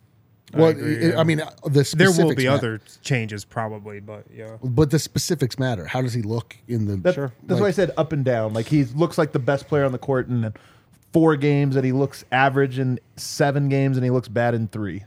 S2: Well,
S4: agree,
S2: it-
S4: yeah.
S2: I mean, uh, the
S4: There
S2: specifics
S4: will be
S2: ma-
S4: other changes probably, but yeah.
S2: but the specifics matter. How does he look in the?
S1: That, That's why I said up and down. Like he looks like the best player on the court in four games, and he looks average in seven games, and he looks bad in three.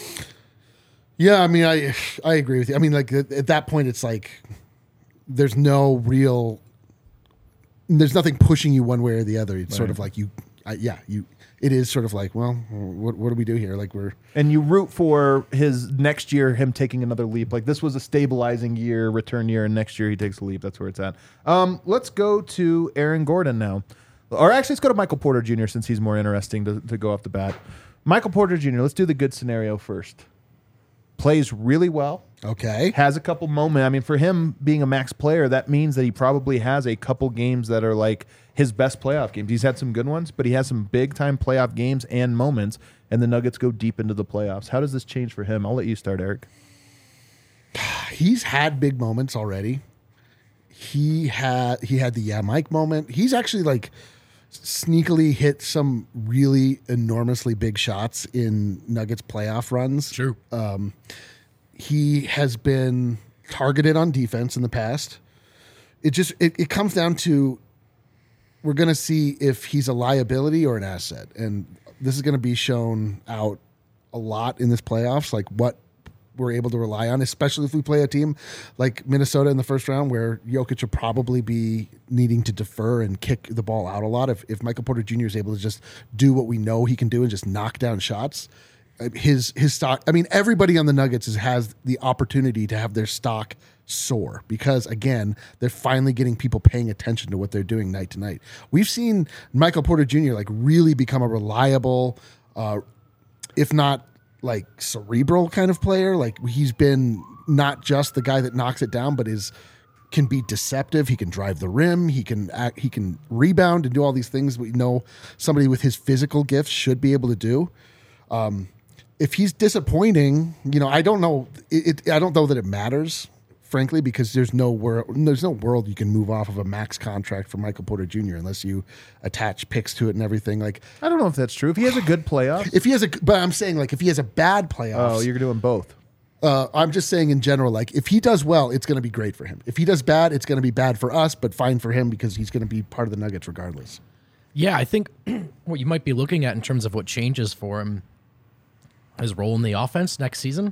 S2: Yeah, I mean, I I agree with you. I mean, like at, at that point, it's like there's no real, there's nothing pushing you one way or the other. It's sort of like you, I, yeah, you. It is sort of like, well, what what do we do here? Like we're
S1: And you root for his next year, him taking another leap. Like this was a stabilizing year, return year, and next year he takes a leap. That's where it's at. Um, let's go to Aaron Gordon now. Or actually, let's go to Michael Porter Junior since he's more interesting to, to go off the bat. Michael Porter Junior, let's do the good scenario first. Plays really well.
S2: okay.
S1: Has a couple moments. I mean, for him being a max player, that means that he probably has a couple games that are like his best playoff games. He's had some good ones, but he has some big time playoff games and moments, and the Nuggets go deep into the playoffs. How does this change for him? I'll let you start, Eric.
S2: He's had big moments already. He had he had the yeah Mike moment. He's actually like sneakily hit some really enormously big shots in Nuggets playoff runs.
S3: True.
S2: He has been targeted on defense in the past. It just it, it comes down to we're going to see if he's a liability or an asset, and this is going to be shown out a lot in this playoffs. Like what we're able to rely on, especially if we play a team like Minnesota in the first round, where Jokic will probably be needing to defer and kick the ball out a lot. If if Michael Porter Junior is able to just do what we know he can do and just knock down shots. His his stock. I mean, everybody on the Nuggets is, has the opportunity to have their stock soar because again, they're finally getting people paying attention to what they're doing night to night. We've seen Michael Porter Junior like really become a reliable, uh, if not like cerebral kind of player. Like he's been not just the guy that knocks it down, but is can be deceptive. He can drive the rim. He can act, he can rebound and do all these things we know somebody with his physical gifts should be able to do. Um, If he's disappointing, you know, I don't know. It, it, I don't know that it matters, frankly, because there's no world. There's no world you can move off of a max contract for Michael Porter Junior unless you attach picks to it and everything. Like,
S1: I don't know if that's true. If he has a good playoff,
S2: if he has a, but I'm saying like if he has a bad playoffs.
S1: oh, you're doing both.
S2: Uh, I'm just saying in general, like if he does well, it's going to be great for him. If he does bad, it's going to be bad for us, but fine for him because he's going to be part of the Nuggets regardless.
S3: Yeah, I think what you might be looking at in terms of what changes for him, his role in the offense next season,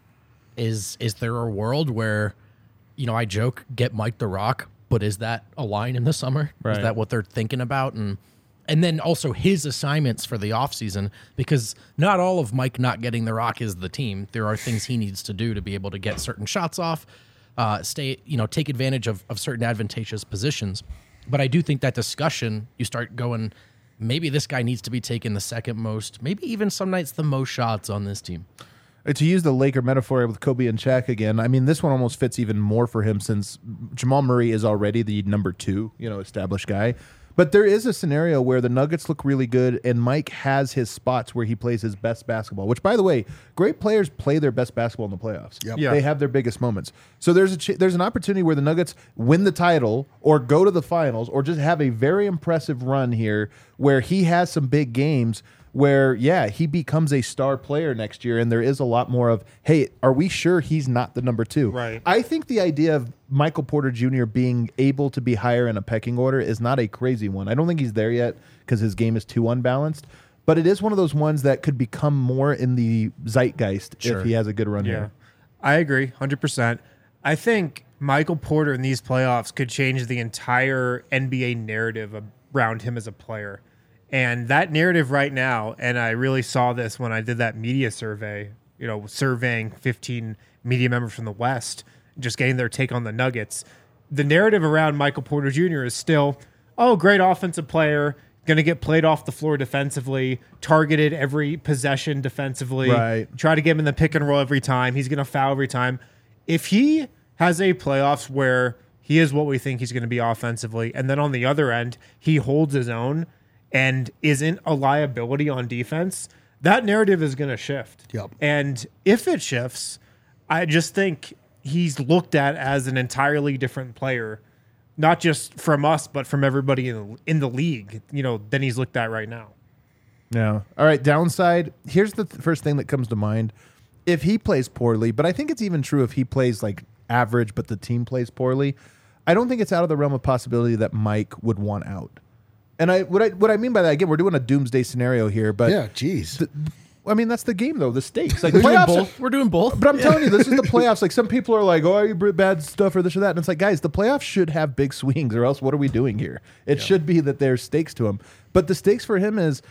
S3: is is there a world where, you know, I joke, get Mike the Rock, but is that a line in the summer?
S1: Right.
S3: Is that what they're thinking about? And and then also his assignments for the offseason, because not all of Mike not getting the rock is the team. There are things he needs to do to be able to get certain shots off, uh, stay, you know, take advantage of, of certain advantageous positions. But I do think that discussion, you start going, maybe this guy needs to be taking the second most, maybe even some nights the most shots on this team.
S1: Uh, To use the Laker metaphor with Kobe and Shaq again, I mean, this one almost fits even more for him since Jamal Murray is already the number two, you know, established guy. But there is a scenario where the Nuggets look really good, and Mike has his spots where he plays his best basketball. Which, by the way, great players play their best basketball in the playoffs.
S2: Yep.
S4: Yeah.
S1: They have their biggest moments. So there's a ch- there's an opportunity where the Nuggets win the title, or go to the finals, or just have a very impressive run here where he has some big games. Where, yeah, he becomes a star player next year, and there is a lot more of, hey, are we sure he's not the number two?
S4: Right.
S1: I think the idea of Michael Porter Junior being able to be higher in a pecking order is not a crazy one. I don't think he's there yet because his game is too unbalanced, but it is one of those ones that could become more in the zeitgeist
S3: Sure.
S1: if he has a good run
S4: Yeah,
S1: here.
S4: I agree, one hundred percent. I think Michael Porter in these playoffs could change the entire N B A narrative around him as a player. And that narrative right now, and I really saw this when I did that media survey, you know, surveying fifteen media members from the West, just getting their take on the Nuggets. The narrative around Michael Porter Junior is still, oh, great offensive player, going to get played off the floor defensively, targeted every possession defensively,
S1: Right.
S4: try to get him in the pick and roll every time. He's going to foul every time. If he has a playoffs where he is what we think he's going to be offensively, and then on the other end, he holds his own and isn't a liability on defense, that narrative is going to shift.
S2: Yep.
S4: And if it shifts, I just think he's looked at as an entirely different player, not just from us, but from everybody in the, in the league, you know, than he's looked at right now.
S1: Yeah. All right, downside. Here's the th- first thing that comes to mind. if he plays poorly, but I think it's even true if he plays like average, but the team plays poorly. I don't think it's out of the realm of possibility that Mike would want out. And I what I what I mean by that, again, we're doing a doomsday scenario here, but
S2: Yeah, geez.
S1: th- I mean that's the game though, the stakes. Like
S3: We're doing
S1: playoffs.
S3: both. We're doing both.
S1: But I'm telling you, this is the playoffs. Like some people are like, "Oh, you br- bad stuff or this or that," and it's like, guys, the playoffs should have big swings, or else what are we doing here? It should be that there's stakes to him. But the stakes for him is,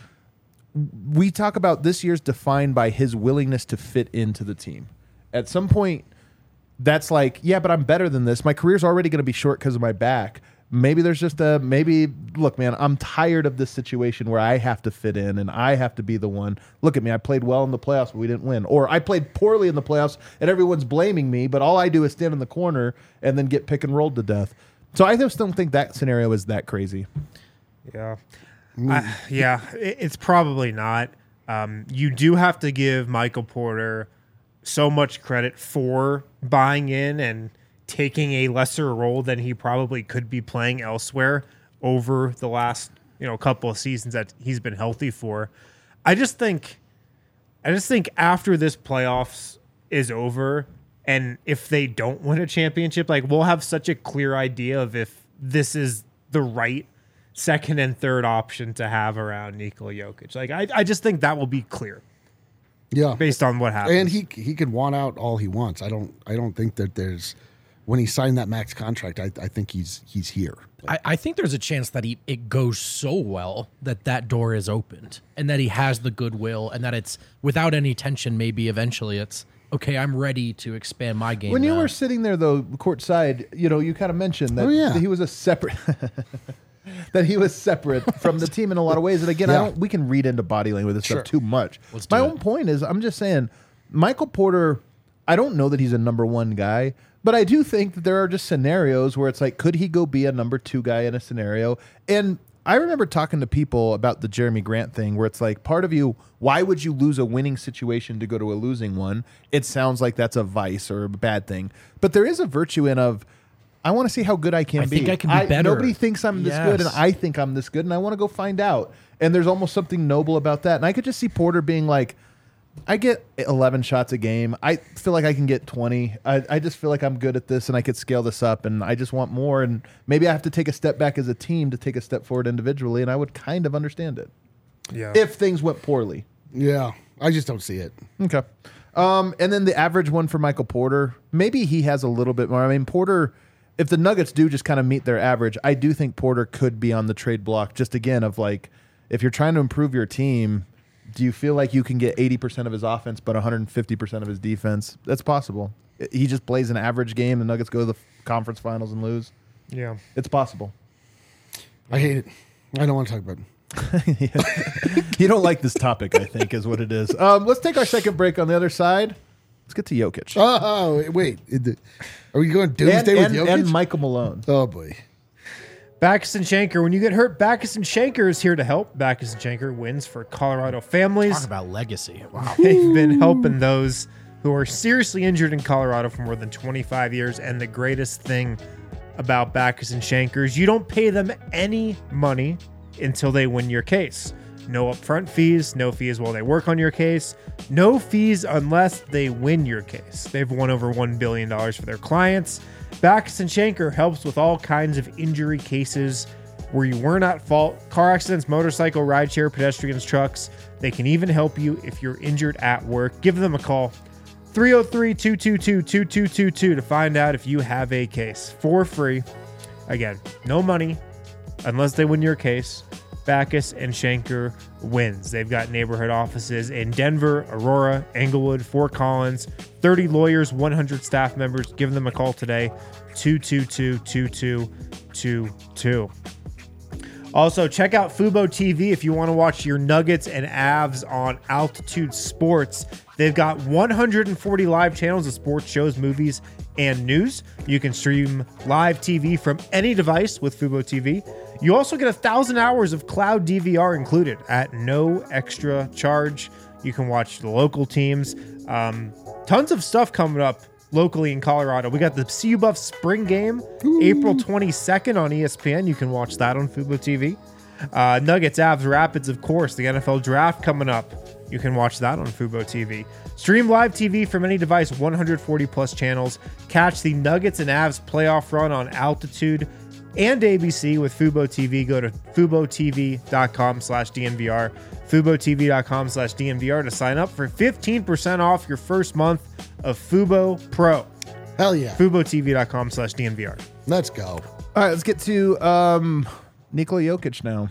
S1: we talk about this year's defined by his willingness to fit into the team. At some point, that's like, yeah, but I'm better than this. My career's already going to be short because of my back. Maybe there's just a maybe. Look, man, I'm tired of this situation where I have to fit in and I have to be the one. Look at me, I played well in the playoffs, but we didn't win. Or I played poorly in the playoffs and everyone's blaming me, but all I do is stand in the corner and then get pick and rolled to death. So I just don't think that scenario is that crazy.
S4: Yeah. I, yeah, it, it's probably not. Um, you do have to give Michael Porter so much credit for buying in and taking a lesser role than he probably could be playing elsewhere over the last, you know, couple of seasons that he's been healthy for. I just think I just think after this playoffs is over and if they don't win a championship, like we'll have such a clear idea of if this is the right second and third option to have around Nikola Jokic. Like I, I just think that will be clear
S2: Yeah.
S4: based on what happens.
S2: And he he can want out all he wants. I don't I don't think that there's when he signed that max contract, I, I think he's he's here.
S3: I, I think there's a chance that he it goes so well that that door is opened and that he has the goodwill and that it's without any tension. Maybe eventually it's okay. I'm ready to expand my game.
S1: When you
S3: now.
S1: were sitting there though, courtside, you know, you kind of mentioned that,
S2: Oh, yeah.
S1: that he was a separate. That he was separate from the team in a lot of ways. And again, I
S2: Yeah.
S1: don't. We can read into body language this
S2: Sure.
S1: stuff too much.
S3: Let's do
S1: My
S3: it.
S1: own point is, I'm just saying, Michael Porter. I don't know that he's a number one guy, but I do think that there are just scenarios where it's like, could he go be a number two guy in a scenario? And I remember talking to people about the Jeremy Grant thing, where it's like, part of you, why would you lose a winning situation to go to a losing one? It sounds like that's a vice or a bad thing, but there is a virtue in of, I want to see how good I can
S3: I
S1: be.
S3: think I can be better.
S1: Nobody thinks I'm this good, and
S3: Yes.
S1: I think I'm this good, and I want to go find out. And there's almost something noble about that. And I could just see Porter being like, I get eleven shots a game. I feel like I can get twenty. I, I just feel like I'm good at this, and I could scale this up, and I just want more. And maybe I have to take a step back as a team to take a step forward individually, and I would kind of understand it
S4: yeah.
S1: if things went poorly.
S2: Yeah. I just don't see it.
S1: Okay. Um, and then the average one for Michael Porter, maybe he has a little bit more. I mean, Porter, if the Nuggets do just kind of meet their average, I do think Porter could be on the trade block. Just again, of like, if you're trying to improve your team, do you feel like you can get eighty percent of his offense but one hundred fifty percent of his defense? That's possible. He just plays an average game. The Nuggets go to the conference finals and lose.
S4: Yeah.
S1: It's possible.
S2: I hate it. I don't want to talk about it.
S1: You don't like this topic, I think, is what it is. Um, let's take our second break on the other side. Let's get to Jokic.
S2: Oh, wait. It- Are we going doomsday
S1: and,
S2: with
S1: and,
S2: Jokic?
S1: and Michael Malone.
S2: Oh, boy.
S4: Backus and Shanker. When you get hurt, Backus and Shanker is here to help. Backus and Shanker wins for Colorado families.
S3: Talk about legacy. Wow.
S4: They've been helping those who are seriously injured in Colorado for more than twenty-five years. And the greatest thing about Backus and Shanker is you don't pay them any money until they win your case. No upfront fees, no fees while they work on your case, no fees unless they win your case. They've won over one billion dollars for their clients. Backus and Shanker helps with all kinds of injury cases where you weren't at fault. Car accidents, motorcycle, rideshare, pedestrians, trucks. They can even help you if you're injured at work. Give them a call. three oh three, two two two, two two two two to find out if you have a case for free. Again, no money unless they win your case. Backus and Shanker wins. They've got neighborhood offices in Denver, Aurora, Englewood, Fort Collins, thirty lawyers, one hundred staff members. Give them a call today, two two two, two two two two. Also, check out Fubo T V if you want to watch your Nuggets and Avs on Altitude Sports. They've got one hundred forty live channels of sports shows, movies, and news. You can stream live T V from any device with Fubo T V. You also get a thousand hours of cloud D V R included at no extra charge. You can watch the local teams. Um, tons of stuff coming up locally in Colorado. We got the C U Buff spring game, Ooh. April twenty-second on E S P N. You can watch that on Fubo T V. Uh, Nuggets, Avs, Rapids, of course. The N F L draft coming up. you can watch that on Fubo T V. Stream live T V from any device, one hundred forty plus channels. Catch the Nuggets and Avs playoff run on Altitude and A B C with Fubo T V. Go to FuboTV.com slash DNVR. FuboTV.com slash DNVR to sign up for fifteen percent off your first month of Fubo Pro.
S2: Hell yeah.
S4: FuboTV.com slash DNVR.
S2: Let's go.
S1: All right, let's get to um, Nikola Jokic now.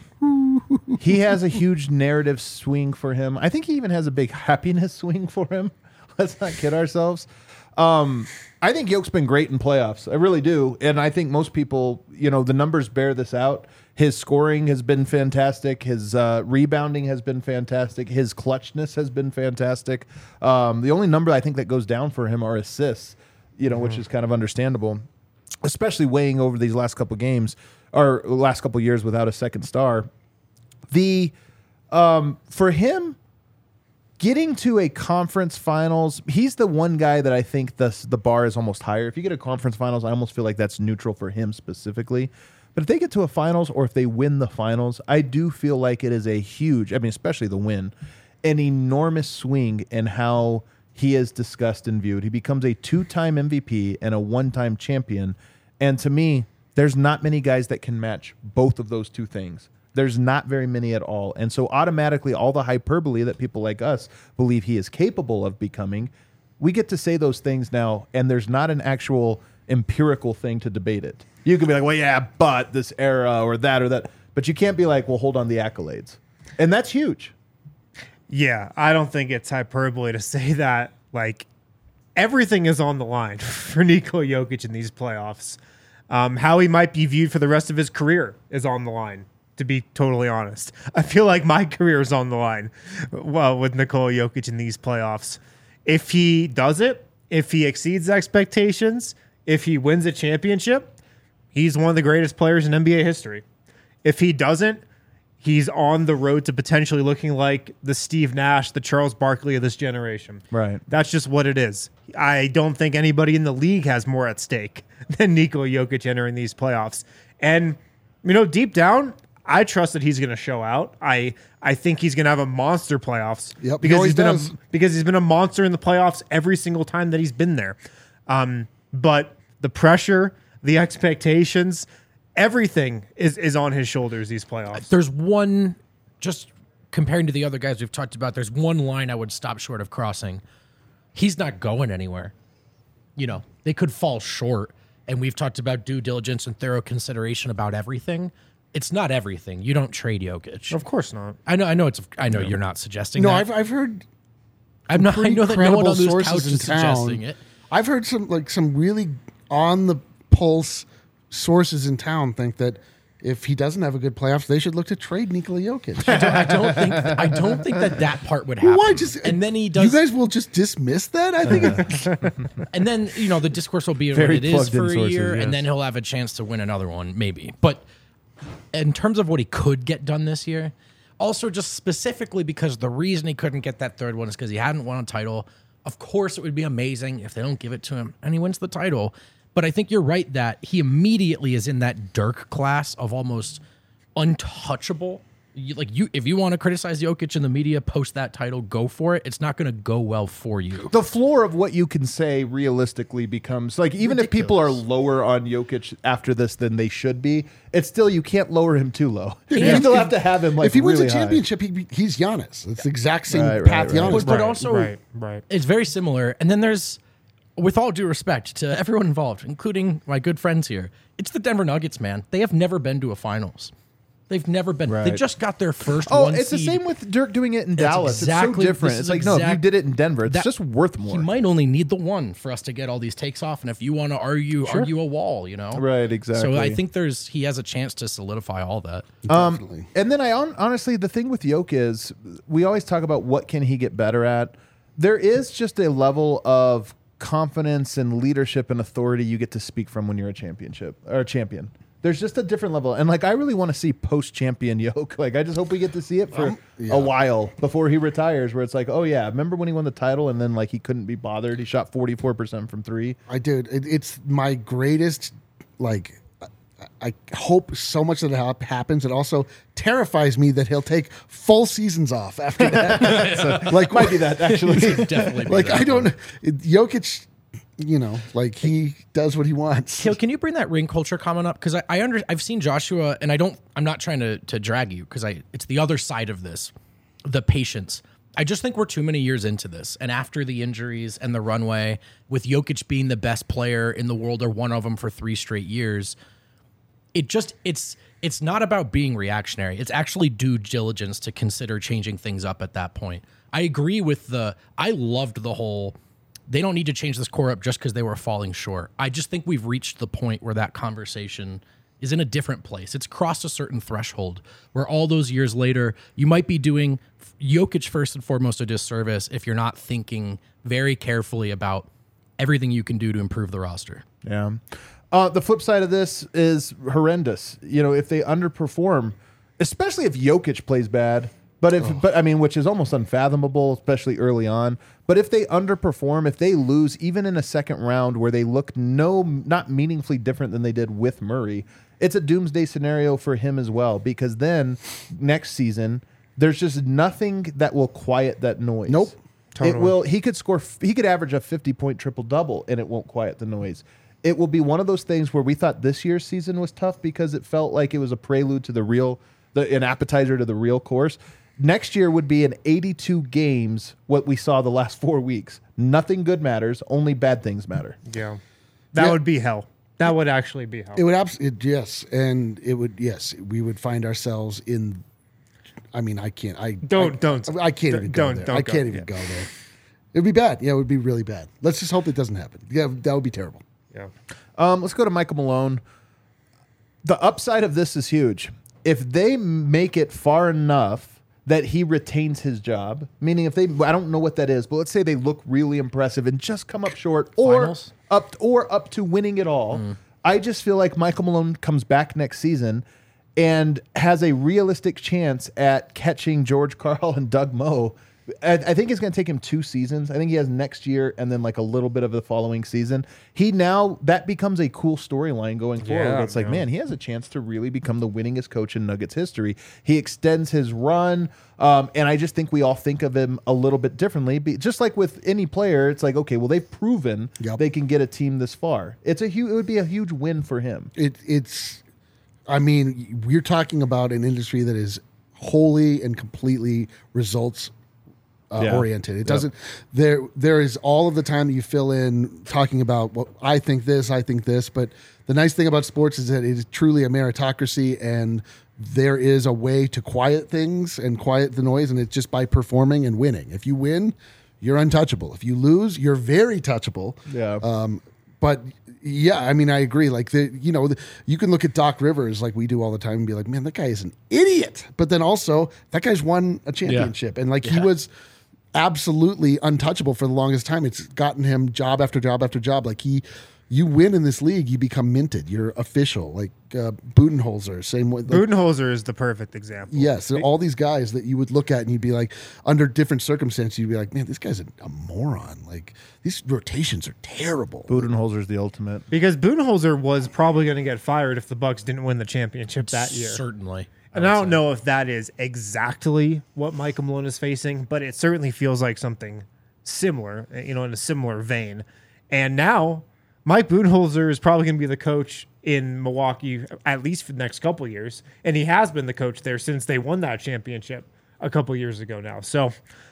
S1: He has a huge narrative swing for him. I think he even has a big happiness swing for him. Let's not kid ourselves. Um, I think Jokic's been great in playoffs. I really do. And I think most people, you know, the numbers bear this out. His scoring has been fantastic. His uh, rebounding has been fantastic. His clutchness has been fantastic. Um, the only number I think that goes down for him are assists, you know, mm-hmm. which is kind of understandable, especially weighing over these last couple games or last couple years without a second star. The um, for him getting to a conference finals, he's the one guy that I think the the bar is almost higher. If you get a conference finals, I almost feel like that's neutral for him specifically. But if they get to a finals or if they win the finals, I do feel like it is a huge, I mean, especially the win, an enormous swing in how he is discussed and viewed. He becomes a two-time M V P and a one-time champion. And to me, there's not many guys that can match both of those two things. There's not very many at all. And so automatically all the hyperbole that people like us believe he is capable of becoming, we get to say those things now, and there's not an actual empirical thing to debate it. You can be like, well, yeah, but this era or that or that. But you can't be like, well, hold on the accolades. And that's huge.
S4: Yeah, I don't think it's hyperbole to say that. Like, everything is on the line for Nikola Jokic in these playoffs. Um, how he might be viewed for the rest of his career is on the line, to be totally honest. I feel like my career is on the line well, with Nikola Jokic in these playoffs. If he does it, if he exceeds expectations, if he wins a championship, he's one of the greatest players in N B A history. If he doesn't, he's on the road to potentially looking like the Steve Nash, the Charles Barkley of this generation.
S1: Right.
S4: That's just what it is. I don't think anybody in the league has more at stake than Nikola Jokic entering these playoffs. And, you know, deep down, I trust that he's going to show out. I I think he's going to have a monster playoffs.
S2: Yep,
S4: because
S2: he
S4: he's been
S2: does.
S4: a, because he's been a monster in the playoffs every single time that he's been there. Um, but the pressure, the expectations, everything is is on his shoulders these playoffs.
S3: There's one, just comparing to the other guys we've talked about, there's one line I would stop short of crossing. He's not going anywhere. You know, they could fall short, and we've talked about due diligence and thorough consideration about everything. It's not everything. You don't trade Jokic.
S4: Of course not.
S3: I know. I know. It's. I know you're not suggesting.
S2: No,
S3: that.
S2: I've I've heard.
S3: I'm not. I
S2: pretty
S3: know that no one
S2: credible
S3: on this couch
S2: sources
S3: is
S2: in
S3: suggesting
S2: town.
S3: it.
S2: I've heard some like some really on the pulse sources in town think that if he doesn't have a good playoffs, they should look to trade Nikola Jokic.
S3: I don't, I don't think. I don't think that that part would happen.
S2: Why just
S3: and then he does.
S2: You guys will just dismiss that. I think. It,
S3: and then you know the discourse will be what
S1: Very
S3: it is
S1: plugged in
S3: for a
S1: sources,
S3: year,
S1: yes.
S3: and then he'll have a chance to win another one, maybe. But in terms of what he could get done this year, also just specifically because the reason he couldn't get that third one is because he hadn't won a title. Of course, it would be amazing if they don't give it to him and he wins the title. But I think you're right that he immediately is in that Dirk class of almost untouchable. You, like you, if you want to criticize Jokic in the media post that title, go for it. It's not going to go well for you.
S1: The floor of what you can say realistically becomes like, even if people are
S3: Ridiculous.
S1: lower on Jokic after this than they should be, it's still, you can't lower him too low. You
S2: if-
S1: still
S2: if-
S1: have to have him like
S2: if he wins
S1: really
S2: a
S1: high.
S2: championship, he, he's Giannis. It's the exact same
S1: Right, right,
S2: path
S1: right.
S2: Giannis.
S3: But, but
S4: Right,
S3: also,
S4: right, right.
S3: it's very similar. And then there's, with all due respect to everyone involved, including my good friends here, it's the Denver Nuggets, man. They have never been to a finals. They've never been. They
S1: Right.
S3: just got their first
S1: Oh,
S3: one
S1: it's the
S3: seed.
S1: same with Dirk doing it in Dallas.
S3: exactly-
S1: it's so different.
S3: this
S1: It's
S3: is
S1: like, no, if you
S3: exact-
S1: did it in Denver, it's
S3: that-
S1: just worth more.
S3: He might only need the one for us to get all these takes off. And if you want to argue, argue a wall, you know?
S1: Right, exactly.
S3: So I think there's he has a chance to solidify all that.
S2: Definitely.
S1: And then I hon- honestly, the thing with Jokic is we always talk about what can he get better at. There is just a level of confidence and leadership and authority you get to speak from when you're a championship or a champion. There's just a different level. And like, I really want to see post-champion Jokic. Like, I just hope we get to see it for
S2: Um, yeah.
S1: a while before he retires, where it's like, oh yeah, remember when he won the title and then like he couldn't be bothered? He shot forty-four percent from three.
S2: I did. It, it's my greatest like I hope so much that it hap- happens. It also terrifies me that he'll take full seasons off after that. So, like,
S1: Might be that actually.
S3: Definitely. be
S2: like
S3: that
S2: I don't.
S3: one.
S2: Jokic, you know, like he does what he wants.
S3: Kale, can you bring that ring culture comment up? Because I, I under I've seen Joshua, and I don't. I'm not trying to to drag you because I. It's the other side of this, the patience. I just think we're too many years into this, and after the injuries and the runway, with Jokic being the best player in the world or one of them for three straight years, it just it's it's not about being reactionary. It's actually due diligence to consider changing things up at that point. I agree with the. I loved the whole. They don't need to change this core up just because they were falling short. I just think we've reached the point where that conversation is in a different place. It's crossed a certain threshold where all those years later, you might be doing Jokic first and foremost a disservice if you're not thinking very carefully about everything you can do to improve the roster.
S1: Yeah. Uh, the flip side of this is horrendous. You know, if they underperform, especially if Jokic plays bad, but if, oh. but I mean, which is almost unfathomable, especially early on. But if they underperform, if they lose, even in a second round where they look no, not meaningfully different than they did with Murray, it's a doomsday scenario for him as well. Because then next season, there's just nothing that will quiet that noise.
S2: Nope.
S1: Totally. It will. He could score. He could average a fifty point triple double, and it won't quiet the noise. It will be one of those things where we thought this year's season was tough because it felt like it was a prelude to the real, the, an appetizer to the real course. Next year would be in eighty-two games what we saw the last four weeks. Nothing good matters. Only bad things matter.
S4: Yeah. That
S2: Yeah.
S4: would be hell. That would actually be hell.
S2: It would absolutely yes, and it would yes. We would find ourselves in. I mean, I can't. I
S4: Don't-
S2: I,
S4: don't.
S2: I can't even go
S4: Don't-
S2: there.
S4: don't
S2: I
S4: go.
S2: can't even
S4: Yeah.
S2: go there. It'd be bad. Yeah, it would be really bad. Let's just hope it doesn't happen. Yeah, that would be terrible.
S4: yeah.
S1: Um, let's go to Michael Malone. The upside of this is huge. If they make it far enough that he retains his job, meaning if they, I don't know what that is, but let's say they look really impressive and just come up short, or
S3: Finals?
S1: up or up to winning it all.
S3: Mm.
S1: I just feel like Michael Malone comes back next season and has a realistic chance at catching George Karl and Doug Moe. I, I think it's going to take him two seasons. I think he has next year and then like a little bit of the following season. He now, that becomes a cool storyline going forward.
S4: Yeah,
S1: It's like,
S4: yeah.
S1: man, he has a chance to really become the winningest coach in Nuggets history. He extends his run. Um, and I just think we all think of him a little bit differently. Be, just like with any player, it's like, okay, well, they've proven
S2: Yep.
S1: they can get a team this far. It's a huge, it would be a huge win for him.
S2: It it's. I mean, we're talking about an industry that is wholly and completely results uh,
S1: Yeah.
S2: oriented. It
S1: Yep.
S2: doesn't. There there is all of the time that you fill in talking about well, I think this, I think this. But the nice thing about sports is that it is truly a meritocracy, and there is a way to quiet things and quiet the noise, and it's just by performing and winning. If you win, you're untouchable. If you lose, you're very touchable.
S1: Yeah.
S2: Um, but yeah, I mean, I agree. Like the, you know, the, you can look at Doc Rivers like we do all the time and be like, man, that guy is an idiot. But then also, that guy's won a championship, and like he
S3: Yeah.
S2: was absolutely untouchable for the longest time. It's gotten him job after job after job. Like he, you win in this league, you become minted. You're official. Like uh, Budenholzer, same way. Like,
S4: Budenholzer is the perfect example.
S2: yes, there are all these guys that you would look at and you'd be like, under different circumstances, you'd be like, man, this guy's a, a moron. Like these rotations are terrible.
S1: Budenholzer's the ultimate.
S4: Because Budenholzer was probably going to get fired if the Bucks didn't win the championship that year.
S3: Certainly.
S4: And I don't know if that is exactly what Michael Malone is facing, but it certainly feels like something similar, you know, in a similar vein. And now Mike Budenholzer is probably going to be the coach in Milwaukee at least for the next couple of years, and he has been the coach there since they won that championship a couple of years ago now. So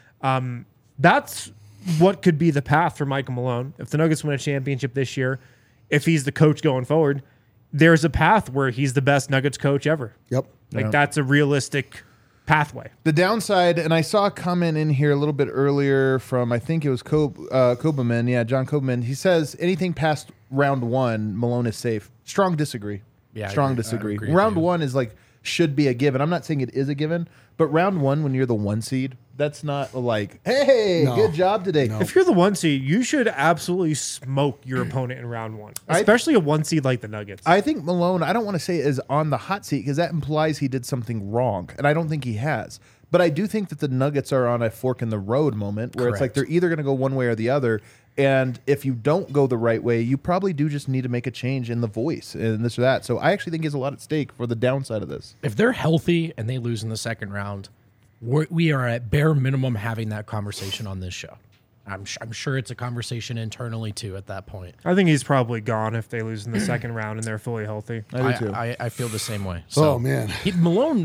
S4: um, that's what could be the path for Michael Malone. If the Nuggets win a championship this year, if he's the coach going forward, there's a path where he's the best Nuggets coach ever.
S2: Yep.
S4: Like
S1: Yeah.
S4: that's a realistic pathway.
S1: The downside, and I saw a comment in here a little bit earlier from, I think it was Kob, uh, Koberman. Yeah, John Koberman. He says anything past round one, Malone is safe. Strong disagree.
S3: Yeah, I
S1: Strong
S3: agree. I
S1: disagree.
S3: agree with
S1: Round
S3: you.
S1: one is like, should be a given. I'm not saying it is a given, but round one, when you're the one seed, that's not like, hey,
S2: No.
S1: good job today.
S2: No.
S4: If you're the one seed, you should absolutely smoke your opponent in round one,
S1: I-
S4: especially a one seed like the Nuggets.
S1: I think Malone, I don't want to say is on the hot seat because that implies he did something wrong, and I don't think he has. But I do think that the Nuggets are on a fork in the road moment where it's like
S3: Correct.
S1: they're either going to go one way or the other. And if you don't go the right way, you probably do just need to make a change in the voice and this or that. So I actually think there's a lot at stake for the downside of this.
S3: If they're healthy and they lose in the second round, we're, we are at bare minimum having that conversation on this show. I'm, sh- I'm sure it's a conversation internally too at that point.
S4: I think he's probably gone if they lose in the second round and they're fully healthy.
S1: I do
S3: I,
S1: too.
S3: I, I feel the same way. So
S2: Oh, man.
S3: he, Malone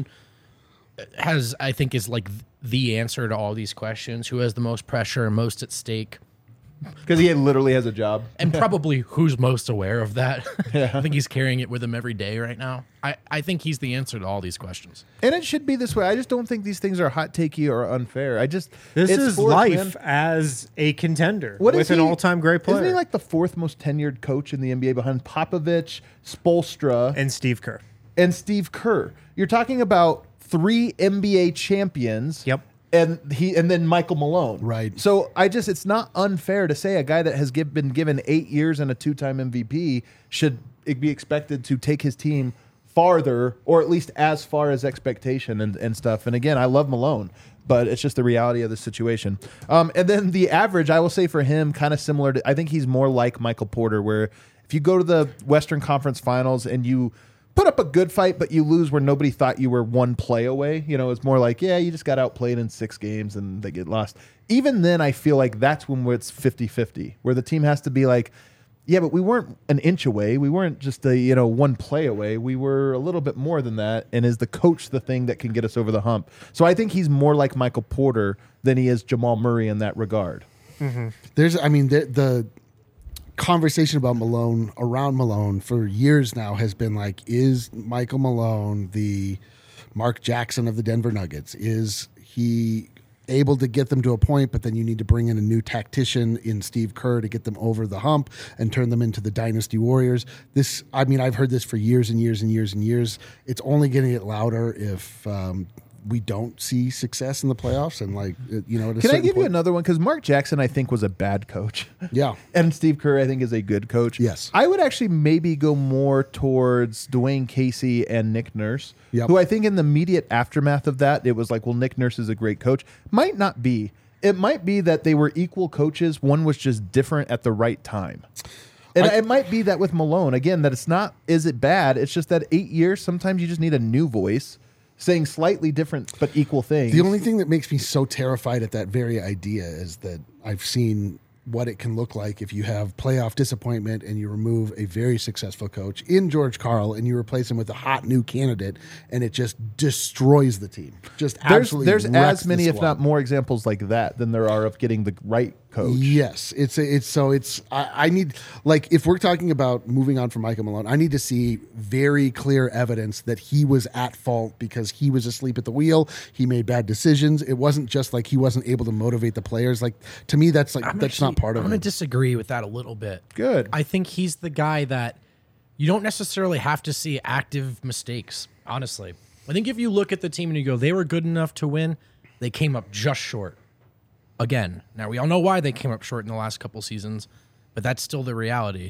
S3: has, I think, is like the answer to all these questions. Who has the most pressure and most at stake?
S1: Because he literally has a job.
S3: And probably who's most aware of that. I think he's carrying it with him every day right now. I, I think he's the answer to all these questions.
S1: And it should be this way. I just don't think these things are hot takey or unfair. I just
S4: This
S1: it's
S4: is
S1: sports,
S4: life
S1: man.
S4: as a contender
S1: What
S4: with
S1: is
S4: an
S1: he-
S4: all-time great player.
S1: Isn't he like the fourth most tenured coach in the N B A behind Popovich, Spoelstra, and,
S4: and Steve Kerr.
S1: Steve Kerr? You're talking about three N B A champions.
S4: Yep.
S1: And he and then Michael Malone.
S2: Right.
S1: So I just it's not unfair to say a guy that has give, been given eight years and a two-time M V P should be expected to take his team farther, or at least as far as expectation and, and stuff. And again, I love Malone, but it's just the reality of the situation. Um, and then the average, I will say for him, kind of similar to, I think he's more like Michael Porter, where if you go to the Western Conference Finals and you put up a good fight, but you lose where nobody thought you were one play away. You know, it's more like, yeah, you just got outplayed in six games and they get lost. Even then, I feel like that's when it's fifty-fifty, where the team has to be like, yeah, but we weren't an inch away. We weren't just a, you know, one play away. We were a little bit more than that. And is the coach the thing that can get us over the hump? So I think he's more like Michael Porter than he is Jamal Murray in that regard.
S2: There's, I mean, the, the conversation about Malone around Malone for years now has been like, is Michael Malone the Mark Jackson of the Denver Nuggets? Is he able to get them to a point, but then you need to bring in a new tactician in Steve Kerr to get them over the hump and turn them into the Dynasty Warriors? This, I mean, I've heard this for years and years and years and years. It's only going to get louder if um, we don't see success in the playoffs. And like, it- you know, at a
S1: Can I
S2: certain
S1: give you
S2: point-
S1: another one? Because Mark Jackson, I think, was a bad coach.
S2: Yeah.
S1: And Steve Kerr, I think, is a good coach.
S2: Yes.
S1: I would actually maybe go more towards Dwayne Casey and Nick Nurse,
S2: Yep.
S1: who I think in the immediate aftermath of that, it was like, well, Nick Nurse is a great coach. Might not be. It might be that they were equal coaches. One was just different at the right time. And
S2: I-
S1: it might be that with Malone, again, that it's not, is it bad? It's just that eight years, sometimes you just need a new voice saying slightly different but equal things.
S2: The only thing that makes me so terrified at that very idea is that I've seen what it can look like if you have playoff disappointment and you remove a very successful coach in George Karl and you replace him with a hot new candidate and it just destroys the team. Just
S1: there's
S2: absolutely
S1: there's
S2: wrecks
S1: as many,
S2: the
S1: if
S2: squad.
S1: not more, examples like that than there are of getting the right coach.
S2: Yes, it's a, it's so it's I, I need like if we're talking about moving on from Michael Malone, I need to see very clear evidence that he was at fault because he was asleep at the wheel. He made bad decisions. It wasn't just like he wasn't able to motivate the players. Like to me, that's like
S3: I'm
S2: that's
S3: actually-
S2: not part of
S3: I'm going
S2: it.
S3: to disagree with that a little bit.
S1: Good.
S3: I think he's the guy that you don't necessarily have to see active mistakes, honestly. I think if you look at the team and you go, they were good enough to win, they came up just short. Again, now we all know why they came up short in the last couple seasons, but that's still the reality.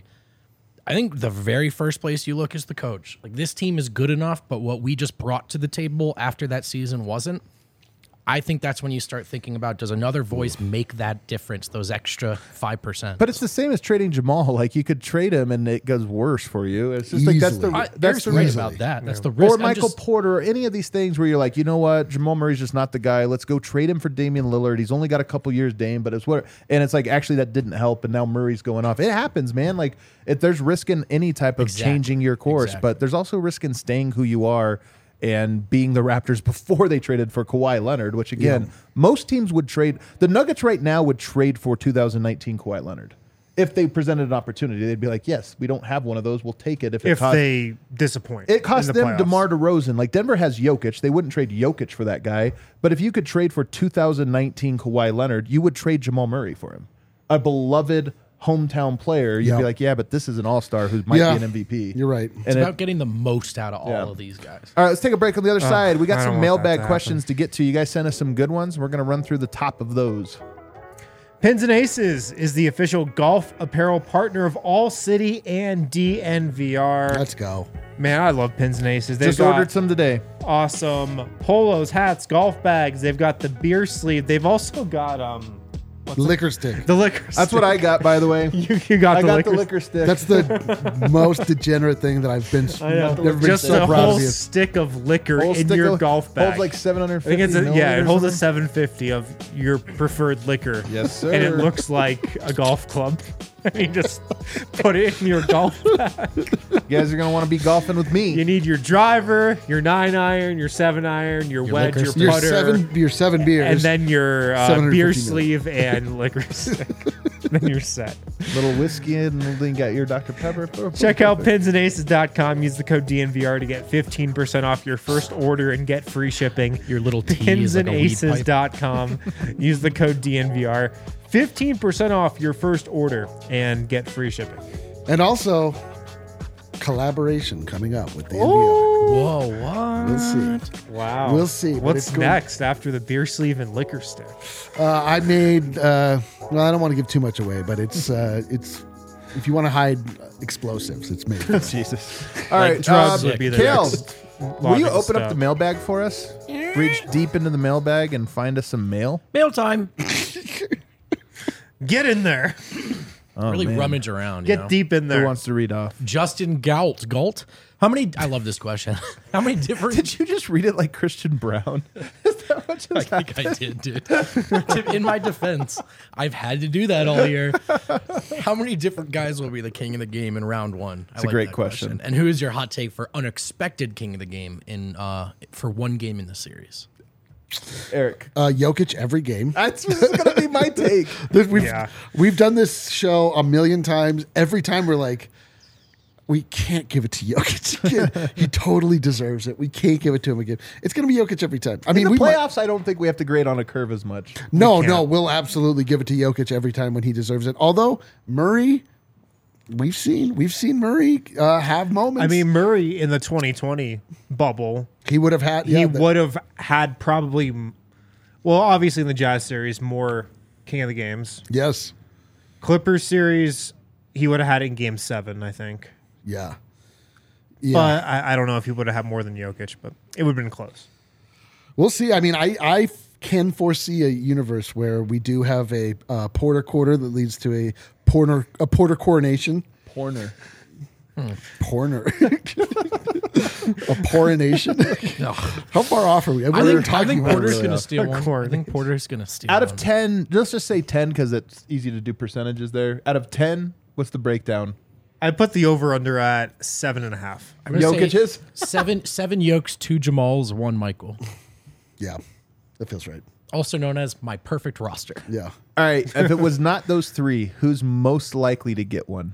S3: I think the very first place you look is the coach. Like this team is good enough, but what we just brought to the table after that season wasn't. I think that's when you start thinking about, does another voice make that difference, those extra five percent?
S1: But it's the same as trading Jamal. Like you could trade him and it goes worse for you. It's just like that's the
S2: Easily.
S3: I,
S1: that's
S3: that's
S1: the
S3: right
S1: reason.
S3: about that. That's the risk.
S1: Or
S3: I'm
S1: Michael
S3: just-
S1: Porter or any of these things where you're like, you know what, Jamal Murray's just not the guy. Let's go trade him for Damian Lillard. He's only got a couple years, Dame, but it's what and it's like actually that didn't help, and now Murray's going off. It happens, man. Like if there's risk in any type of
S3: Exactly.
S1: changing your course,
S3: Exactly.
S1: but there's also risk in staying who you are and being the Raptors before they traded for Kawhi Leonard, which again, most teams would trade. The Nuggets right now would trade for two thousand nineteen Kawhi Leonard. If they presented an opportunity, they'd be like, yes, we don't have one of those. We'll take it. If it
S4: If
S1: costs,
S4: they disappoint.
S1: it cost
S4: in the
S1: them
S4: playoffs.
S1: DeMar DeRozan. Like Denver has Jokic. They wouldn't trade Jokic for that guy. But if you could trade for two thousand nineteen Kawhi Leonard, you would trade Jamal Murray for him. A beloved hometown player. You'd
S2: Yeah.
S1: be like, yeah, but this is an all-star who might
S2: Yeah.
S1: be an M V P.
S2: You're right.
S1: And
S3: It's
S1: it-
S3: about getting the most out of all
S1: Yeah.
S3: of these guys.
S1: all right, let's take a break on the other side. We got
S4: I
S1: some
S4: don't want that
S1: mailbag
S4: to
S1: questions to get to. You guys sent us some good ones. We're going to run through the top of those.
S4: Pins and Aces is the official golf apparel partner of All City and D N V R.
S2: Let's go.
S4: Man, I love Pins and Aces. They've
S1: Just
S4: got
S1: ordered some today.
S4: awesome polos, hats, golf bags. They've got the beer sleeve. They've also got um
S2: Liquor stick.
S4: the liquor.
S1: That's what I got, by the way.
S4: you, you got
S1: I
S4: the
S1: got
S4: liquor.
S1: the liquor stick.
S2: That's the most degenerate thing that I've been.
S4: I know.
S2: Never been
S4: Just
S2: so
S4: a
S2: proud
S4: whole
S2: of you.
S4: stick of liquor
S1: Whole
S4: in
S1: stick
S4: your
S1: of-
S4: golf bag.
S1: Holds like seven hundred
S4: I
S1: fifty.
S4: think it's a, yeah, it holds a
S1: milliliters or
S4: seven fifty of your preferred liquor.
S1: Yes, sir.
S4: And it looks like a golf club. And you just put it in your golf bag.
S1: something. You guys are gonna want to be golfing with me.
S4: You need your driver, your nine iron, your seven iron, your,
S3: Your
S4: wedge,
S3: liquor
S4: your
S3: stick.
S2: Your
S4: putter,
S2: seven, your seven beers,
S4: and then your uh,
S2: seven hundred
S4: beer
S2: fifty mil.
S4: sleeve and liquor stick. Then you're set.
S1: Little whiskey and then you got your Doctor Pepper.
S4: Check out pins and aces dot com. Use the code D N V R to get fifteen percent off your first order and get free shipping.
S3: Your little tea is like a weed
S4: pins and aces
S3: pipe.
S4: dot com. Use the code D N V R. fifteen percent off your first order and get free shipping.
S2: and also collaboration coming up with the N V R.
S3: Whoa, what?
S2: We'll see.
S4: Wow.
S2: We'll see, but
S4: What's
S2: it's going-
S4: next after the beer sleeve and liquor stick?
S2: Uh, I made. Uh, well, I don't want to give too much away, but it's uh, it's. If you want to hide explosives, it's made.
S1: Jesus. All
S4: Like
S1: right,
S4: drugs
S1: um,
S4: would be the
S1: Kale,
S4: next
S1: will you
S4: logical
S1: open up
S4: step.
S1: the mailbag for us? Reach deep into the mailbag and find us some mail.
S3: Mail time.
S4: Get in there.
S1: Oh,
S3: Really
S1: man.
S3: rummage around. You
S4: Get
S3: know?
S4: deep in
S1: Who
S4: there.
S1: wants to read off?
S3: Justin Gault. Gault? How many? I love this question. How many different?
S1: Did you just read it like Christian Brown? Is that what just
S3: I think I did, dude. To- In my defense, I've had to do that all year. How many different guys will be the king of the game in round one? It's
S1: a great question.
S3: And who is your hot take for unexpected king of the game in uh, for one game in the series?
S1: Eric?
S2: Uh, Jokic every game.
S1: That's this is gonna be my take.
S2: This- We've,
S4: Yeah.
S2: we've done this show a million times. Every time we're like, we can't give it to Jokic again. He totally deserves it. We can't give it to him again. It's going to be Jokic every time. I
S1: In
S2: mean,
S1: the
S2: we might-
S1: playoffs, I don't think we have to grade on a curve as much.
S2: no,
S4: can't.
S2: no, we'll absolutely give it to Jokic every time when he deserves it. Although Murray, we've seen we've seen Murray uh, have moments.
S4: I mean, Murray in the twenty twenty bubble,
S2: he would have had.
S4: he
S2: yeah, the-
S4: would have had probably, well, obviously in the Jazz series, more king of the games.
S2: yes,
S4: Clippers series, he would have had it in game seven, I think.
S2: yeah, yeah.
S4: But I, I don't know if he would have had more than Jokic, but it would have been close.
S2: We'll see. I mean, I, I can foresee a universe where we do have a uh, Porter quarter that leads to a Porter a Porter coronation.
S1: Porner.
S2: Porner. a porination. How far off are we?
S3: I
S2: We're
S3: think, I
S2: talking
S3: think
S2: about
S3: Porter's
S2: really
S3: going to
S2: off.
S3: steal one.
S4: Corn.
S3: I think Porter's going to steal
S1: Out of
S3: one.
S1: ten, let's just say ten because it's easy to do percentages there. Out of ten, what's the breakdown?
S4: I put the over under at seven and a half.
S3: I'm gonna say
S1: Jokic's?
S3: seven seven Yokes, two Jamals, one Michael.
S2: Yeah, that feels right.
S3: Also known as my perfect roster.
S2: Yeah.
S1: All right, if it was not those three, who's most likely to get one?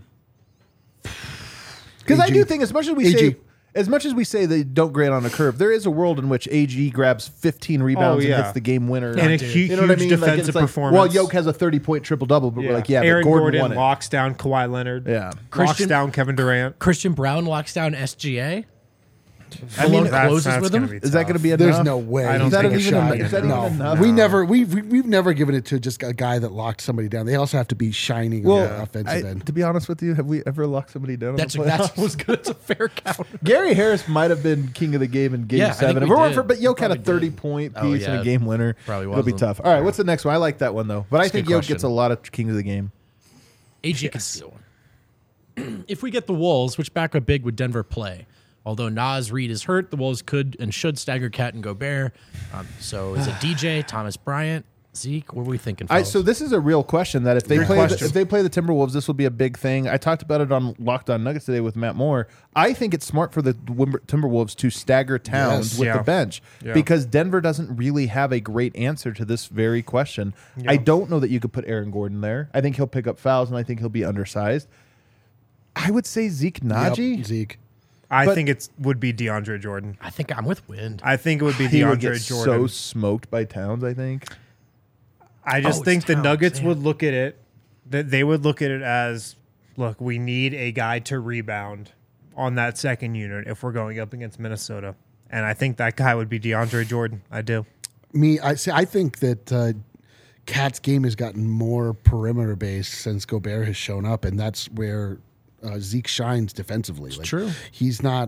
S1: Because I
S2: A G.
S1: do think, as much as we
S2: A G.
S1: say, as much as we say they don't grade on a curve, there is a world in which A G grabs fifteen rebounds
S4: Oh, yeah.
S1: and hits the game winner.
S4: And a
S3: dude.
S4: hu- huge
S1: you know what I mean? Like,
S4: defensive
S1: it's like,
S4: performance.
S1: well, Yoke has a thirty-point triple-double, but we're like, yeah,
S4: Aaron
S1: but Gordon,
S4: Gordon,
S1: won it.
S4: locks down Kawhi Leonard.
S1: Yeah.
S4: Locks
S3: Christian-
S4: down Kevin Durant.
S3: Christian Brown locks down S G A.
S1: I mean,
S4: That's-
S3: closes
S4: that's
S3: with
S4: gonna
S3: him?
S4: be
S1: is that
S4: tough.
S1: going to be enough?
S2: There's no way.
S4: I don't
S2: he's
S1: think
S2: gonna
S1: it's
S2: shine.
S1: even- is that even
S2: no.
S1: enough?
S2: We
S4: No.
S2: never we've we- we've never given it to just a guy that locked somebody down. They also have to be shining on the
S1: Well,
S2: offensive
S1: I-
S2: end.
S1: to be honest with you, have we ever locked somebody down?
S3: That's
S1: in the
S3: that's
S1: playoffs?
S3: was good. It's a fair count.
S1: Gary Harris might have been king of the game in Game
S3: Yeah, I think
S1: Seven.
S3: we
S1: If it weren't
S3: did.
S1: for, but Yoke
S3: We
S1: had a
S3: probably did.
S1: thirty-point
S3: Oh,
S1: piece and
S3: yeah.
S1: a game winner.
S3: Probably
S1: It'll be
S3: wasn't.
S1: tough. All right, what's the next one? I like that one though, but I
S3: That's a
S1: think
S3: good
S1: Yoke
S3: question.
S1: gets a lot of king of the game.
S3: A G can steal one. If we get the Wolves, which backup big would Denver play? Although Nas Reed is hurt, the Wolves could and should stagger Cat and Gobert. Um, so is it D J, Thomas Bryant, Zeke? What are we thinking?
S1: I,
S3: fellas?
S1: so this is a real question that if they
S4: Great
S1: play the,
S4: question.
S1: if they play the Timberwolves, this will be a big thing. I talked about it on Locked On Nuggets today with Matt Moore. I think it's smart for the Wimber- Timberwolves to stagger Towns
S2: Yes.
S1: with
S4: Yeah.
S1: the bench
S4: Yeah.
S1: because Denver doesn't really have a great answer to this very question. I don't know that you could put Aaron Gordon there. I think he'll pick up fouls and I think he'll be undersized. I would say Zeke Naji.
S2: Yep, Zeke.
S4: I
S1: But-
S4: think it would be DeAndre Jordan.
S3: I think I'm with Wind.
S4: I think it would be
S1: He would
S4: DeAndre
S1: get
S4: Jordan.
S1: so smoked by Towns. I think.
S4: I just
S3: Oh,
S4: think
S3: it's
S4: the
S3: Towns,
S4: Nuggets
S3: man.
S4: would look at it that they would look at it as, look, we need a guy to rebound on that second unit if we're going up against Minnesota. And I think that guy would be DeAndre Jordan. I do.
S2: Me, I see. I think that uh, Cat's game has gotten more perimeter based since Gobert has shown up, and that's where uh, Zeke shines defensively. Like,
S3: true.
S2: He's not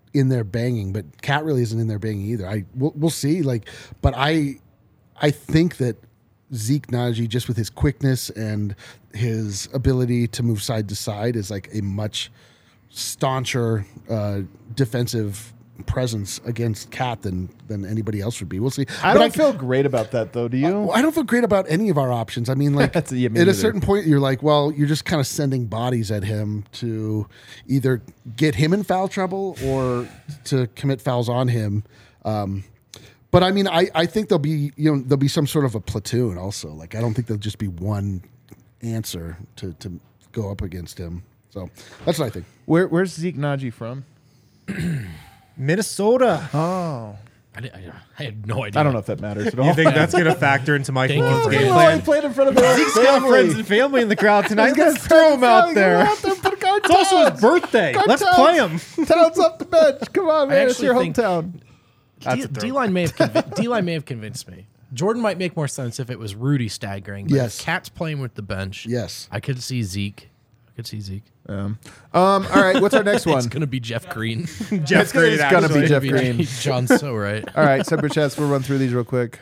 S2: in there banging, but Cat really isn't in there banging either. I we'll, we'll see. Like, but I I think that Zeke Naji, just with his quickness and his ability to move side to side, is like a much stauncher uh, defensive presence against Cat than than anybody else would be. We'll see.
S1: I
S2: But
S1: don't feel great about that though. Do you?
S2: Well, I don't feel great about any of our options. I mean, like
S1: That's- yeah, me
S2: at a
S1: neither.
S2: certain point, you're like, well, you're just kind of sending bodies at him to either get him in foul trouble or to commit fouls on him. Um, but I mean, I, I think there'll be you know there'll be some sort of a platoon also. Like I don't think there'll just be one answer to to go up against him. So that's what I think.
S1: Where, where's Zeke Naji from?
S4: Minnesota.
S1: Oh,
S3: I, did- I, I had no idea.
S1: I don't know if that matters at all.
S4: You think that's going to factor into Mike
S3: Thank you
S4: Malone's
S3: for
S4: game
S3: that.
S1: Well, he
S4: plan?
S1: played in front of their
S4: Zeke's got friends and family in the crowd tonight. Let's throw him out there. It's also his birthday.
S1: Go
S4: Let's
S1: Towns.
S4: play him.
S1: Towns off the bench. Come on,
S3: I
S1: man. It's
S3: actually
S1: your
S3: think-
S1: hometown.
S3: D- D-line may have conv- D-line may have convinced me. Jordan might make more sense if it was Rudy staggering. But
S2: Yes.
S3: if Cat's playing with the bench.
S2: Yes.
S3: I could see Zeke. I could see Zeke.
S1: Um, um, all right, what's our next one?
S3: It's gonna be Jeff Green.
S4: Jeff
S1: It's gonna-
S4: Green,
S1: it's gonna be
S4: actually.
S1: Jeff Green.
S3: John's so right.
S1: All right, Super Chats, we'll run through these real quick.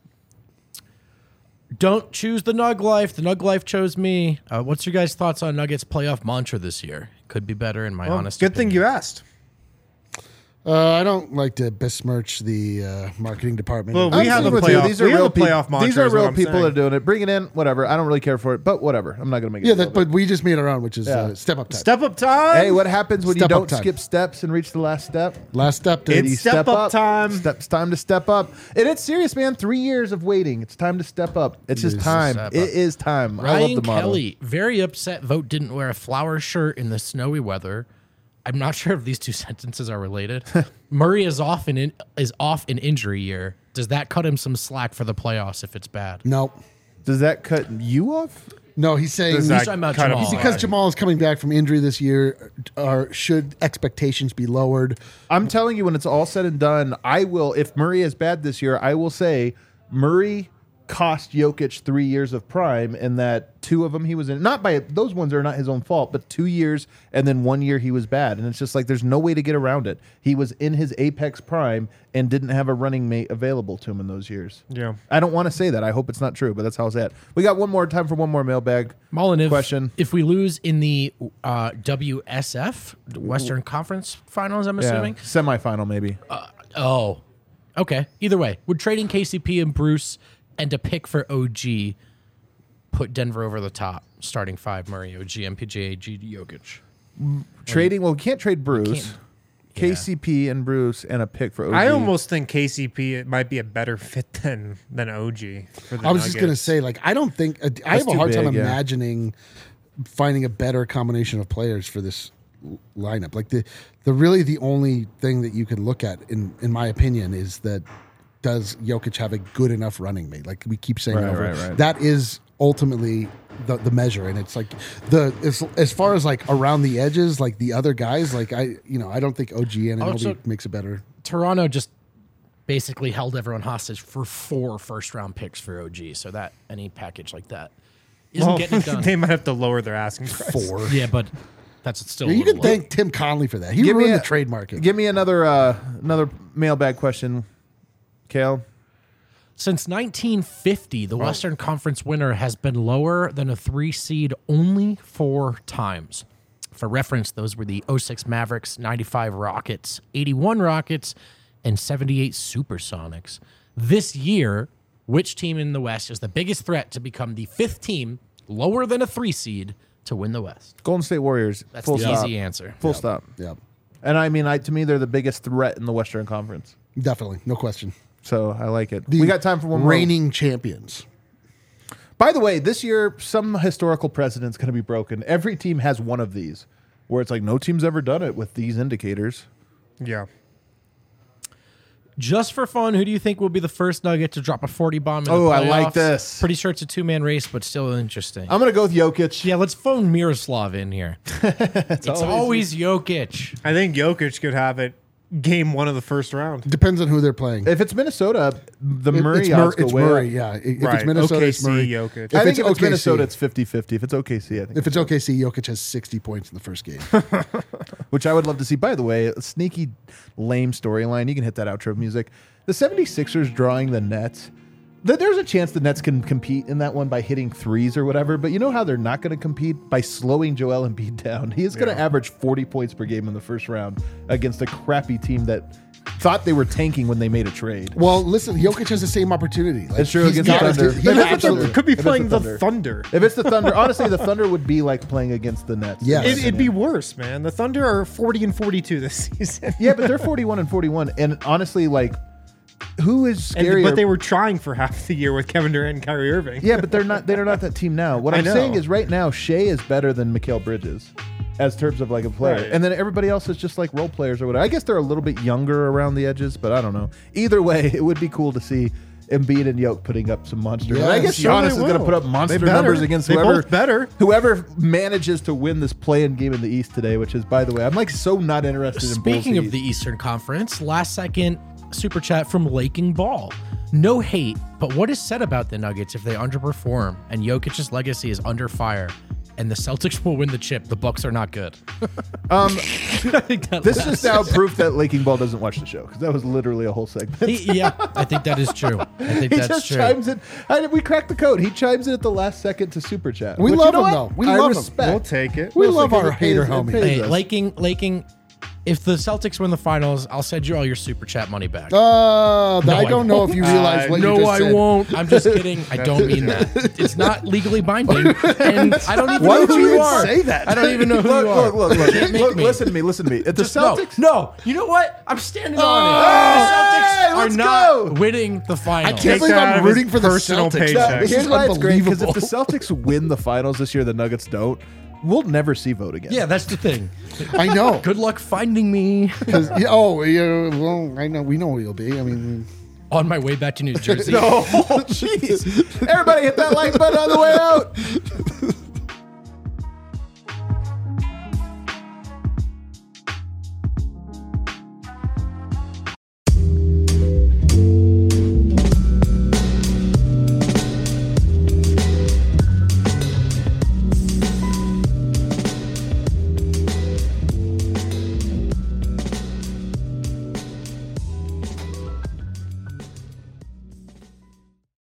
S3: Don't choose the Nug Life. The Nug Life chose me. Uh, what's your guys' thoughts on Nuggets playoff mantra this year? Could be better, in my
S4: Well,
S3: honest
S4: good thing
S3: opinion.
S4: you asked.
S2: Uh, I don't like to besmirch the uh, marketing department.
S4: Well, we
S1: I'm
S4: have
S1: seeing
S4: a
S1: with you.
S4: playoff-
S1: These are
S4: we have
S1: real
S4: a playoff
S1: people.
S4: mantra
S1: These are
S4: is what
S1: real
S4: I'm
S1: people
S4: saying.
S1: that are doing it. Bring it in, whatever. I don't really care for it, but whatever. I'm not going to make it.
S2: yeah,
S1: a
S2: that,
S1: deal.
S2: but we just made our own, which is
S1: Yeah.
S2: uh, step up time.
S4: Step up time.
S1: Hey, what happens when
S2: Step
S1: you
S2: up
S1: don't
S2: time.
S1: skip steps and reach the last step?
S2: Last step. To
S4: It's
S1: You
S4: step up time.
S1: Steps time to step up. And it's serious, man. Three years of waiting. It's time to step up. It's just
S2: is.
S1: time.
S3: Step up.
S1: It is time. I love
S3: Ryan
S1: the model.
S3: Kelly, very upset. Vote didn't wear a flower shirt in the snowy weather. I'm not sure if these two sentences are related. Murray is off in, in is off in injury year. Does that cut him some slack for the playoffs if it's bad?
S2: no,
S1: Does that cut you off?
S2: no, he's saying
S4: Does
S3: He's
S4: that
S3: talking about
S4: cut him
S3: Jamal.
S4: slack?
S2: because Jamal is coming back from injury this year. Or should expectations be lowered?
S1: I'm telling you, when it's all said and done, I will. If Murray is bad this year, I will say Murray cost Jokic three years of prime, and that two of them he was in. Not by those ones are not his own fault, but two years and then one year he was bad, and it's just like there's no way to get around it. He was in his apex prime and didn't have a running mate available to him in those years.
S4: Yeah.
S1: I don't want to say that. I hope it's not true, but that's how it's at. We got one more time for one more mailbag.
S3: Mullen, if,
S1: Question.
S3: if we lose in the uh, W S F, the Western Conference Finals, I'm
S1: Yeah,
S3: assuming.
S1: semifinal maybe.
S3: Oh, okay. Either way, would trading K C P and Bruce and a pick for O G put Denver over the top? Starting five: Murray, O G, M P J, A G, Jokic.
S1: Trading. Well, we can't trade Bruce.
S3: can't-
S1: K C P and Bruce and a pick for O G.
S4: I almost think K C P might be a better fit than than O G. For the
S2: I was just gonna
S4: Nuggets.
S2: say, like, I don't think uh, I have a
S1: too
S2: hard time
S1: big, yeah.
S2: imagining finding a better combination of players for this l- lineup. Like the the really the only thing that you can look at, in in my opinion, is that does Jokic have a good enough running mate? Like we keep saying
S1: Right,
S2: over,
S1: right, right.
S2: that is ultimately the, the measure, and it's like the as, as far as like around the edges, like the other guys, like I you know I don't think O G and
S3: Also-
S2: makes it better.
S3: Toronto just basically held everyone hostage for four first round picks for O G, so that any package like that isn't
S4: Well,
S3: getting it done.
S4: they might have to lower their asking price.
S2: Four.
S3: Yeah, but that's still.
S2: Yeah,
S3: a
S2: you
S3: little
S2: can
S3: low.
S2: thank Tim Conley for that. He
S1: Give me
S2: ruined
S1: a-
S2: the trade market.
S1: Give me another uh, another mailbag question, Kale.
S3: Since nineteen fifty, the Western Conference winner has been lower than a three seed only four times. For reference, those were the oh six Mavericks, ninety-five Rockets, eighty-one Rockets, and seventy-eight Supersonics. This year, which team in the West is the biggest threat to become the fifth team lower than a three seed to win the West?
S1: Golden State Warriors.
S3: That's
S1: full
S3: the
S1: stop.
S3: easy answer.
S1: Full stop.
S2: Yeah,
S1: And I mean, I, to me, they're the biggest threat in the Western Conference.
S2: definitely, no question.
S1: So I like it.
S2: The
S1: we got time for one more.
S2: reigning champions.
S1: By the way, this year, some historical precedent's going to be broken. Every team has one of these, where it's like no team's ever done it with these indicators.
S4: Yeah.
S3: Just for fun, who do you think will be the first Nugget to drop a forty bomb in
S1: Oh,
S3: the
S1: I like
S3: playoffs?
S1: this.
S3: Pretty sure it's a two-man race, but still interesting.
S1: I'm going to go with Jokic.
S3: Yeah, let's phone Miroslav in here. it's
S1: always-
S3: always, Jokic.
S4: I think Jokic could have it game one of the first round.
S2: Depends on who they're playing.
S1: If it's Minnesota, the
S2: It-
S1: Murray
S2: it's, Mur-
S1: odds go
S2: it's
S1: way
S2: Murray,
S1: up.
S2: yeah. I- If
S4: Right.
S2: it's Minnesota,
S4: O K
S2: it's
S4: C,
S2: Murray.
S4: Jokic.
S1: I think
S2: it's
S1: if it's
S2: O K C
S1: Minnesota, it's fifty-fifty. If it's O K C, I think
S2: If it's O K C, Jokic has sixty points in the first game.
S1: which I would love to see. By the way, a sneaky, lame storyline. You can hit that outro music. The 76ers drawing the Nets. Th- There's a chance the Nets can compete in that one by hitting threes or whatever, but you know how they're not going to compete? By slowing Joel Embiid down. He is going to
S4: Yeah.
S1: average forty points per game in the first round against a crappy team that thought they were tanking when they made a trade.
S2: Well, listen, Jokic has the same opportunity. Like,
S1: It's true
S2: he's
S1: against the
S2: got
S1: Thunder.
S2: to-
S1: If
S2: yeah,
S1: it's the
S2: absolutely.
S1: Thunder.
S4: Could be
S1: If it's
S4: playing
S1: the
S4: the
S1: Thunder.
S4: Thunder.
S1: If it's the Thunder, honestly, the Thunder would be like playing against the Nets.
S2: Yes.
S4: It, it'd be worse, man. The Thunder are forty and forty-two this season.
S1: Yeah, but they're forty-one and forty-one. And honestly, like, who is
S4: And-
S1: scarier?
S4: but they were trying for half the year with Kevin Durant and Kyrie Irving.
S1: Yeah, but they're not. They're not that team now. What
S4: I
S1: I'm
S4: know.
S1: saying is, right now, Shea is better than Mikal Bridges, as terms of like a player,
S4: Right.
S1: and then everybody else is just like role players or whatever. I guess they're a little bit younger around the edges, but I don't know. Either way, it would be cool to see Embiid and Yoke putting up some monster. and I guess
S2: Yes,
S1: Giannis
S4: they
S1: is going to
S4: will.
S1: put up monster
S4: They better.
S1: numbers against
S4: They
S1: whoever
S4: both better.
S1: whoever manages to win this play-in game in the East today. Which is, by the way, I'm like so not interested in.
S3: Speaking
S1: Bulls
S3: of the Eastern Conference, last second super chat from Laking Ball. No hate, but what is said about the Nuggets if they underperform and Jokic's legacy is under fire and the Celtics will win the chip? The Bucks are not good.
S1: Um,
S3: I think that
S1: this
S3: last-
S1: is now proof that Laking Ball doesn't watch the show because that was literally a whole segment.
S3: He- yeah, I think that is true. I think
S1: He
S3: that's
S1: just
S3: true.
S1: chimes in. I, we cracked the code. He chimes in at the last second to super chat.
S2: We
S1: which,
S2: love
S1: you know
S2: him,
S1: what?
S2: though. We
S1: I
S2: love him.
S1: respect.
S4: We'll take it.
S2: We
S1: Mostly
S2: love
S1: 'cause
S2: our
S1: it pays-
S2: hater
S1: it
S2: homie.
S1: pays
S3: Hey,
S1: us.
S3: Laking, Laking, if the Celtics win the finals, I'll send you all your super chat money back.
S2: Uh,
S3: No,
S2: I
S3: I
S2: don't know if you realize
S4: Uh,
S2: what you
S3: no,
S2: just
S3: I
S2: said.
S3: won't. I'm just kidding. I don't mean that. It's not legally binding, and I don't even
S2: Why
S3: know
S2: would
S3: who
S2: you
S3: you
S2: even
S3: are.
S2: say that?
S3: I don't even know who
S1: Look,
S3: you are.
S1: look, look, look,
S3: Can't make
S1: look,
S3: me.
S1: listen to me, listen to me. If the
S3: Just no,
S1: Celtics,
S3: no. You know what? I'm standing on
S1: Oh,
S3: it. The Celtics
S1: hey,
S3: are
S1: let's
S3: not
S1: go.
S3: winning the finals.
S2: I can't
S4: Take
S2: believe
S4: that out
S2: I'm
S4: of his
S2: rooting for the
S4: personal
S2: Celtics.
S4: paycheck.
S1: No,
S4: Check.
S1: but here's why it's great because if the
S2: Unbelievable.
S1: Celtics win the finals this year, the Nuggets don't. We'll never see vote again.
S3: Yeah, that's the thing.
S2: I know.
S3: Good luck finding me
S2: 'Cause- yeah, oh, yeah, well, I know. We know where you'll be. I mean,
S3: on my way back to New Jersey.
S1: No, jeez. Everybody hit that like button on the way out.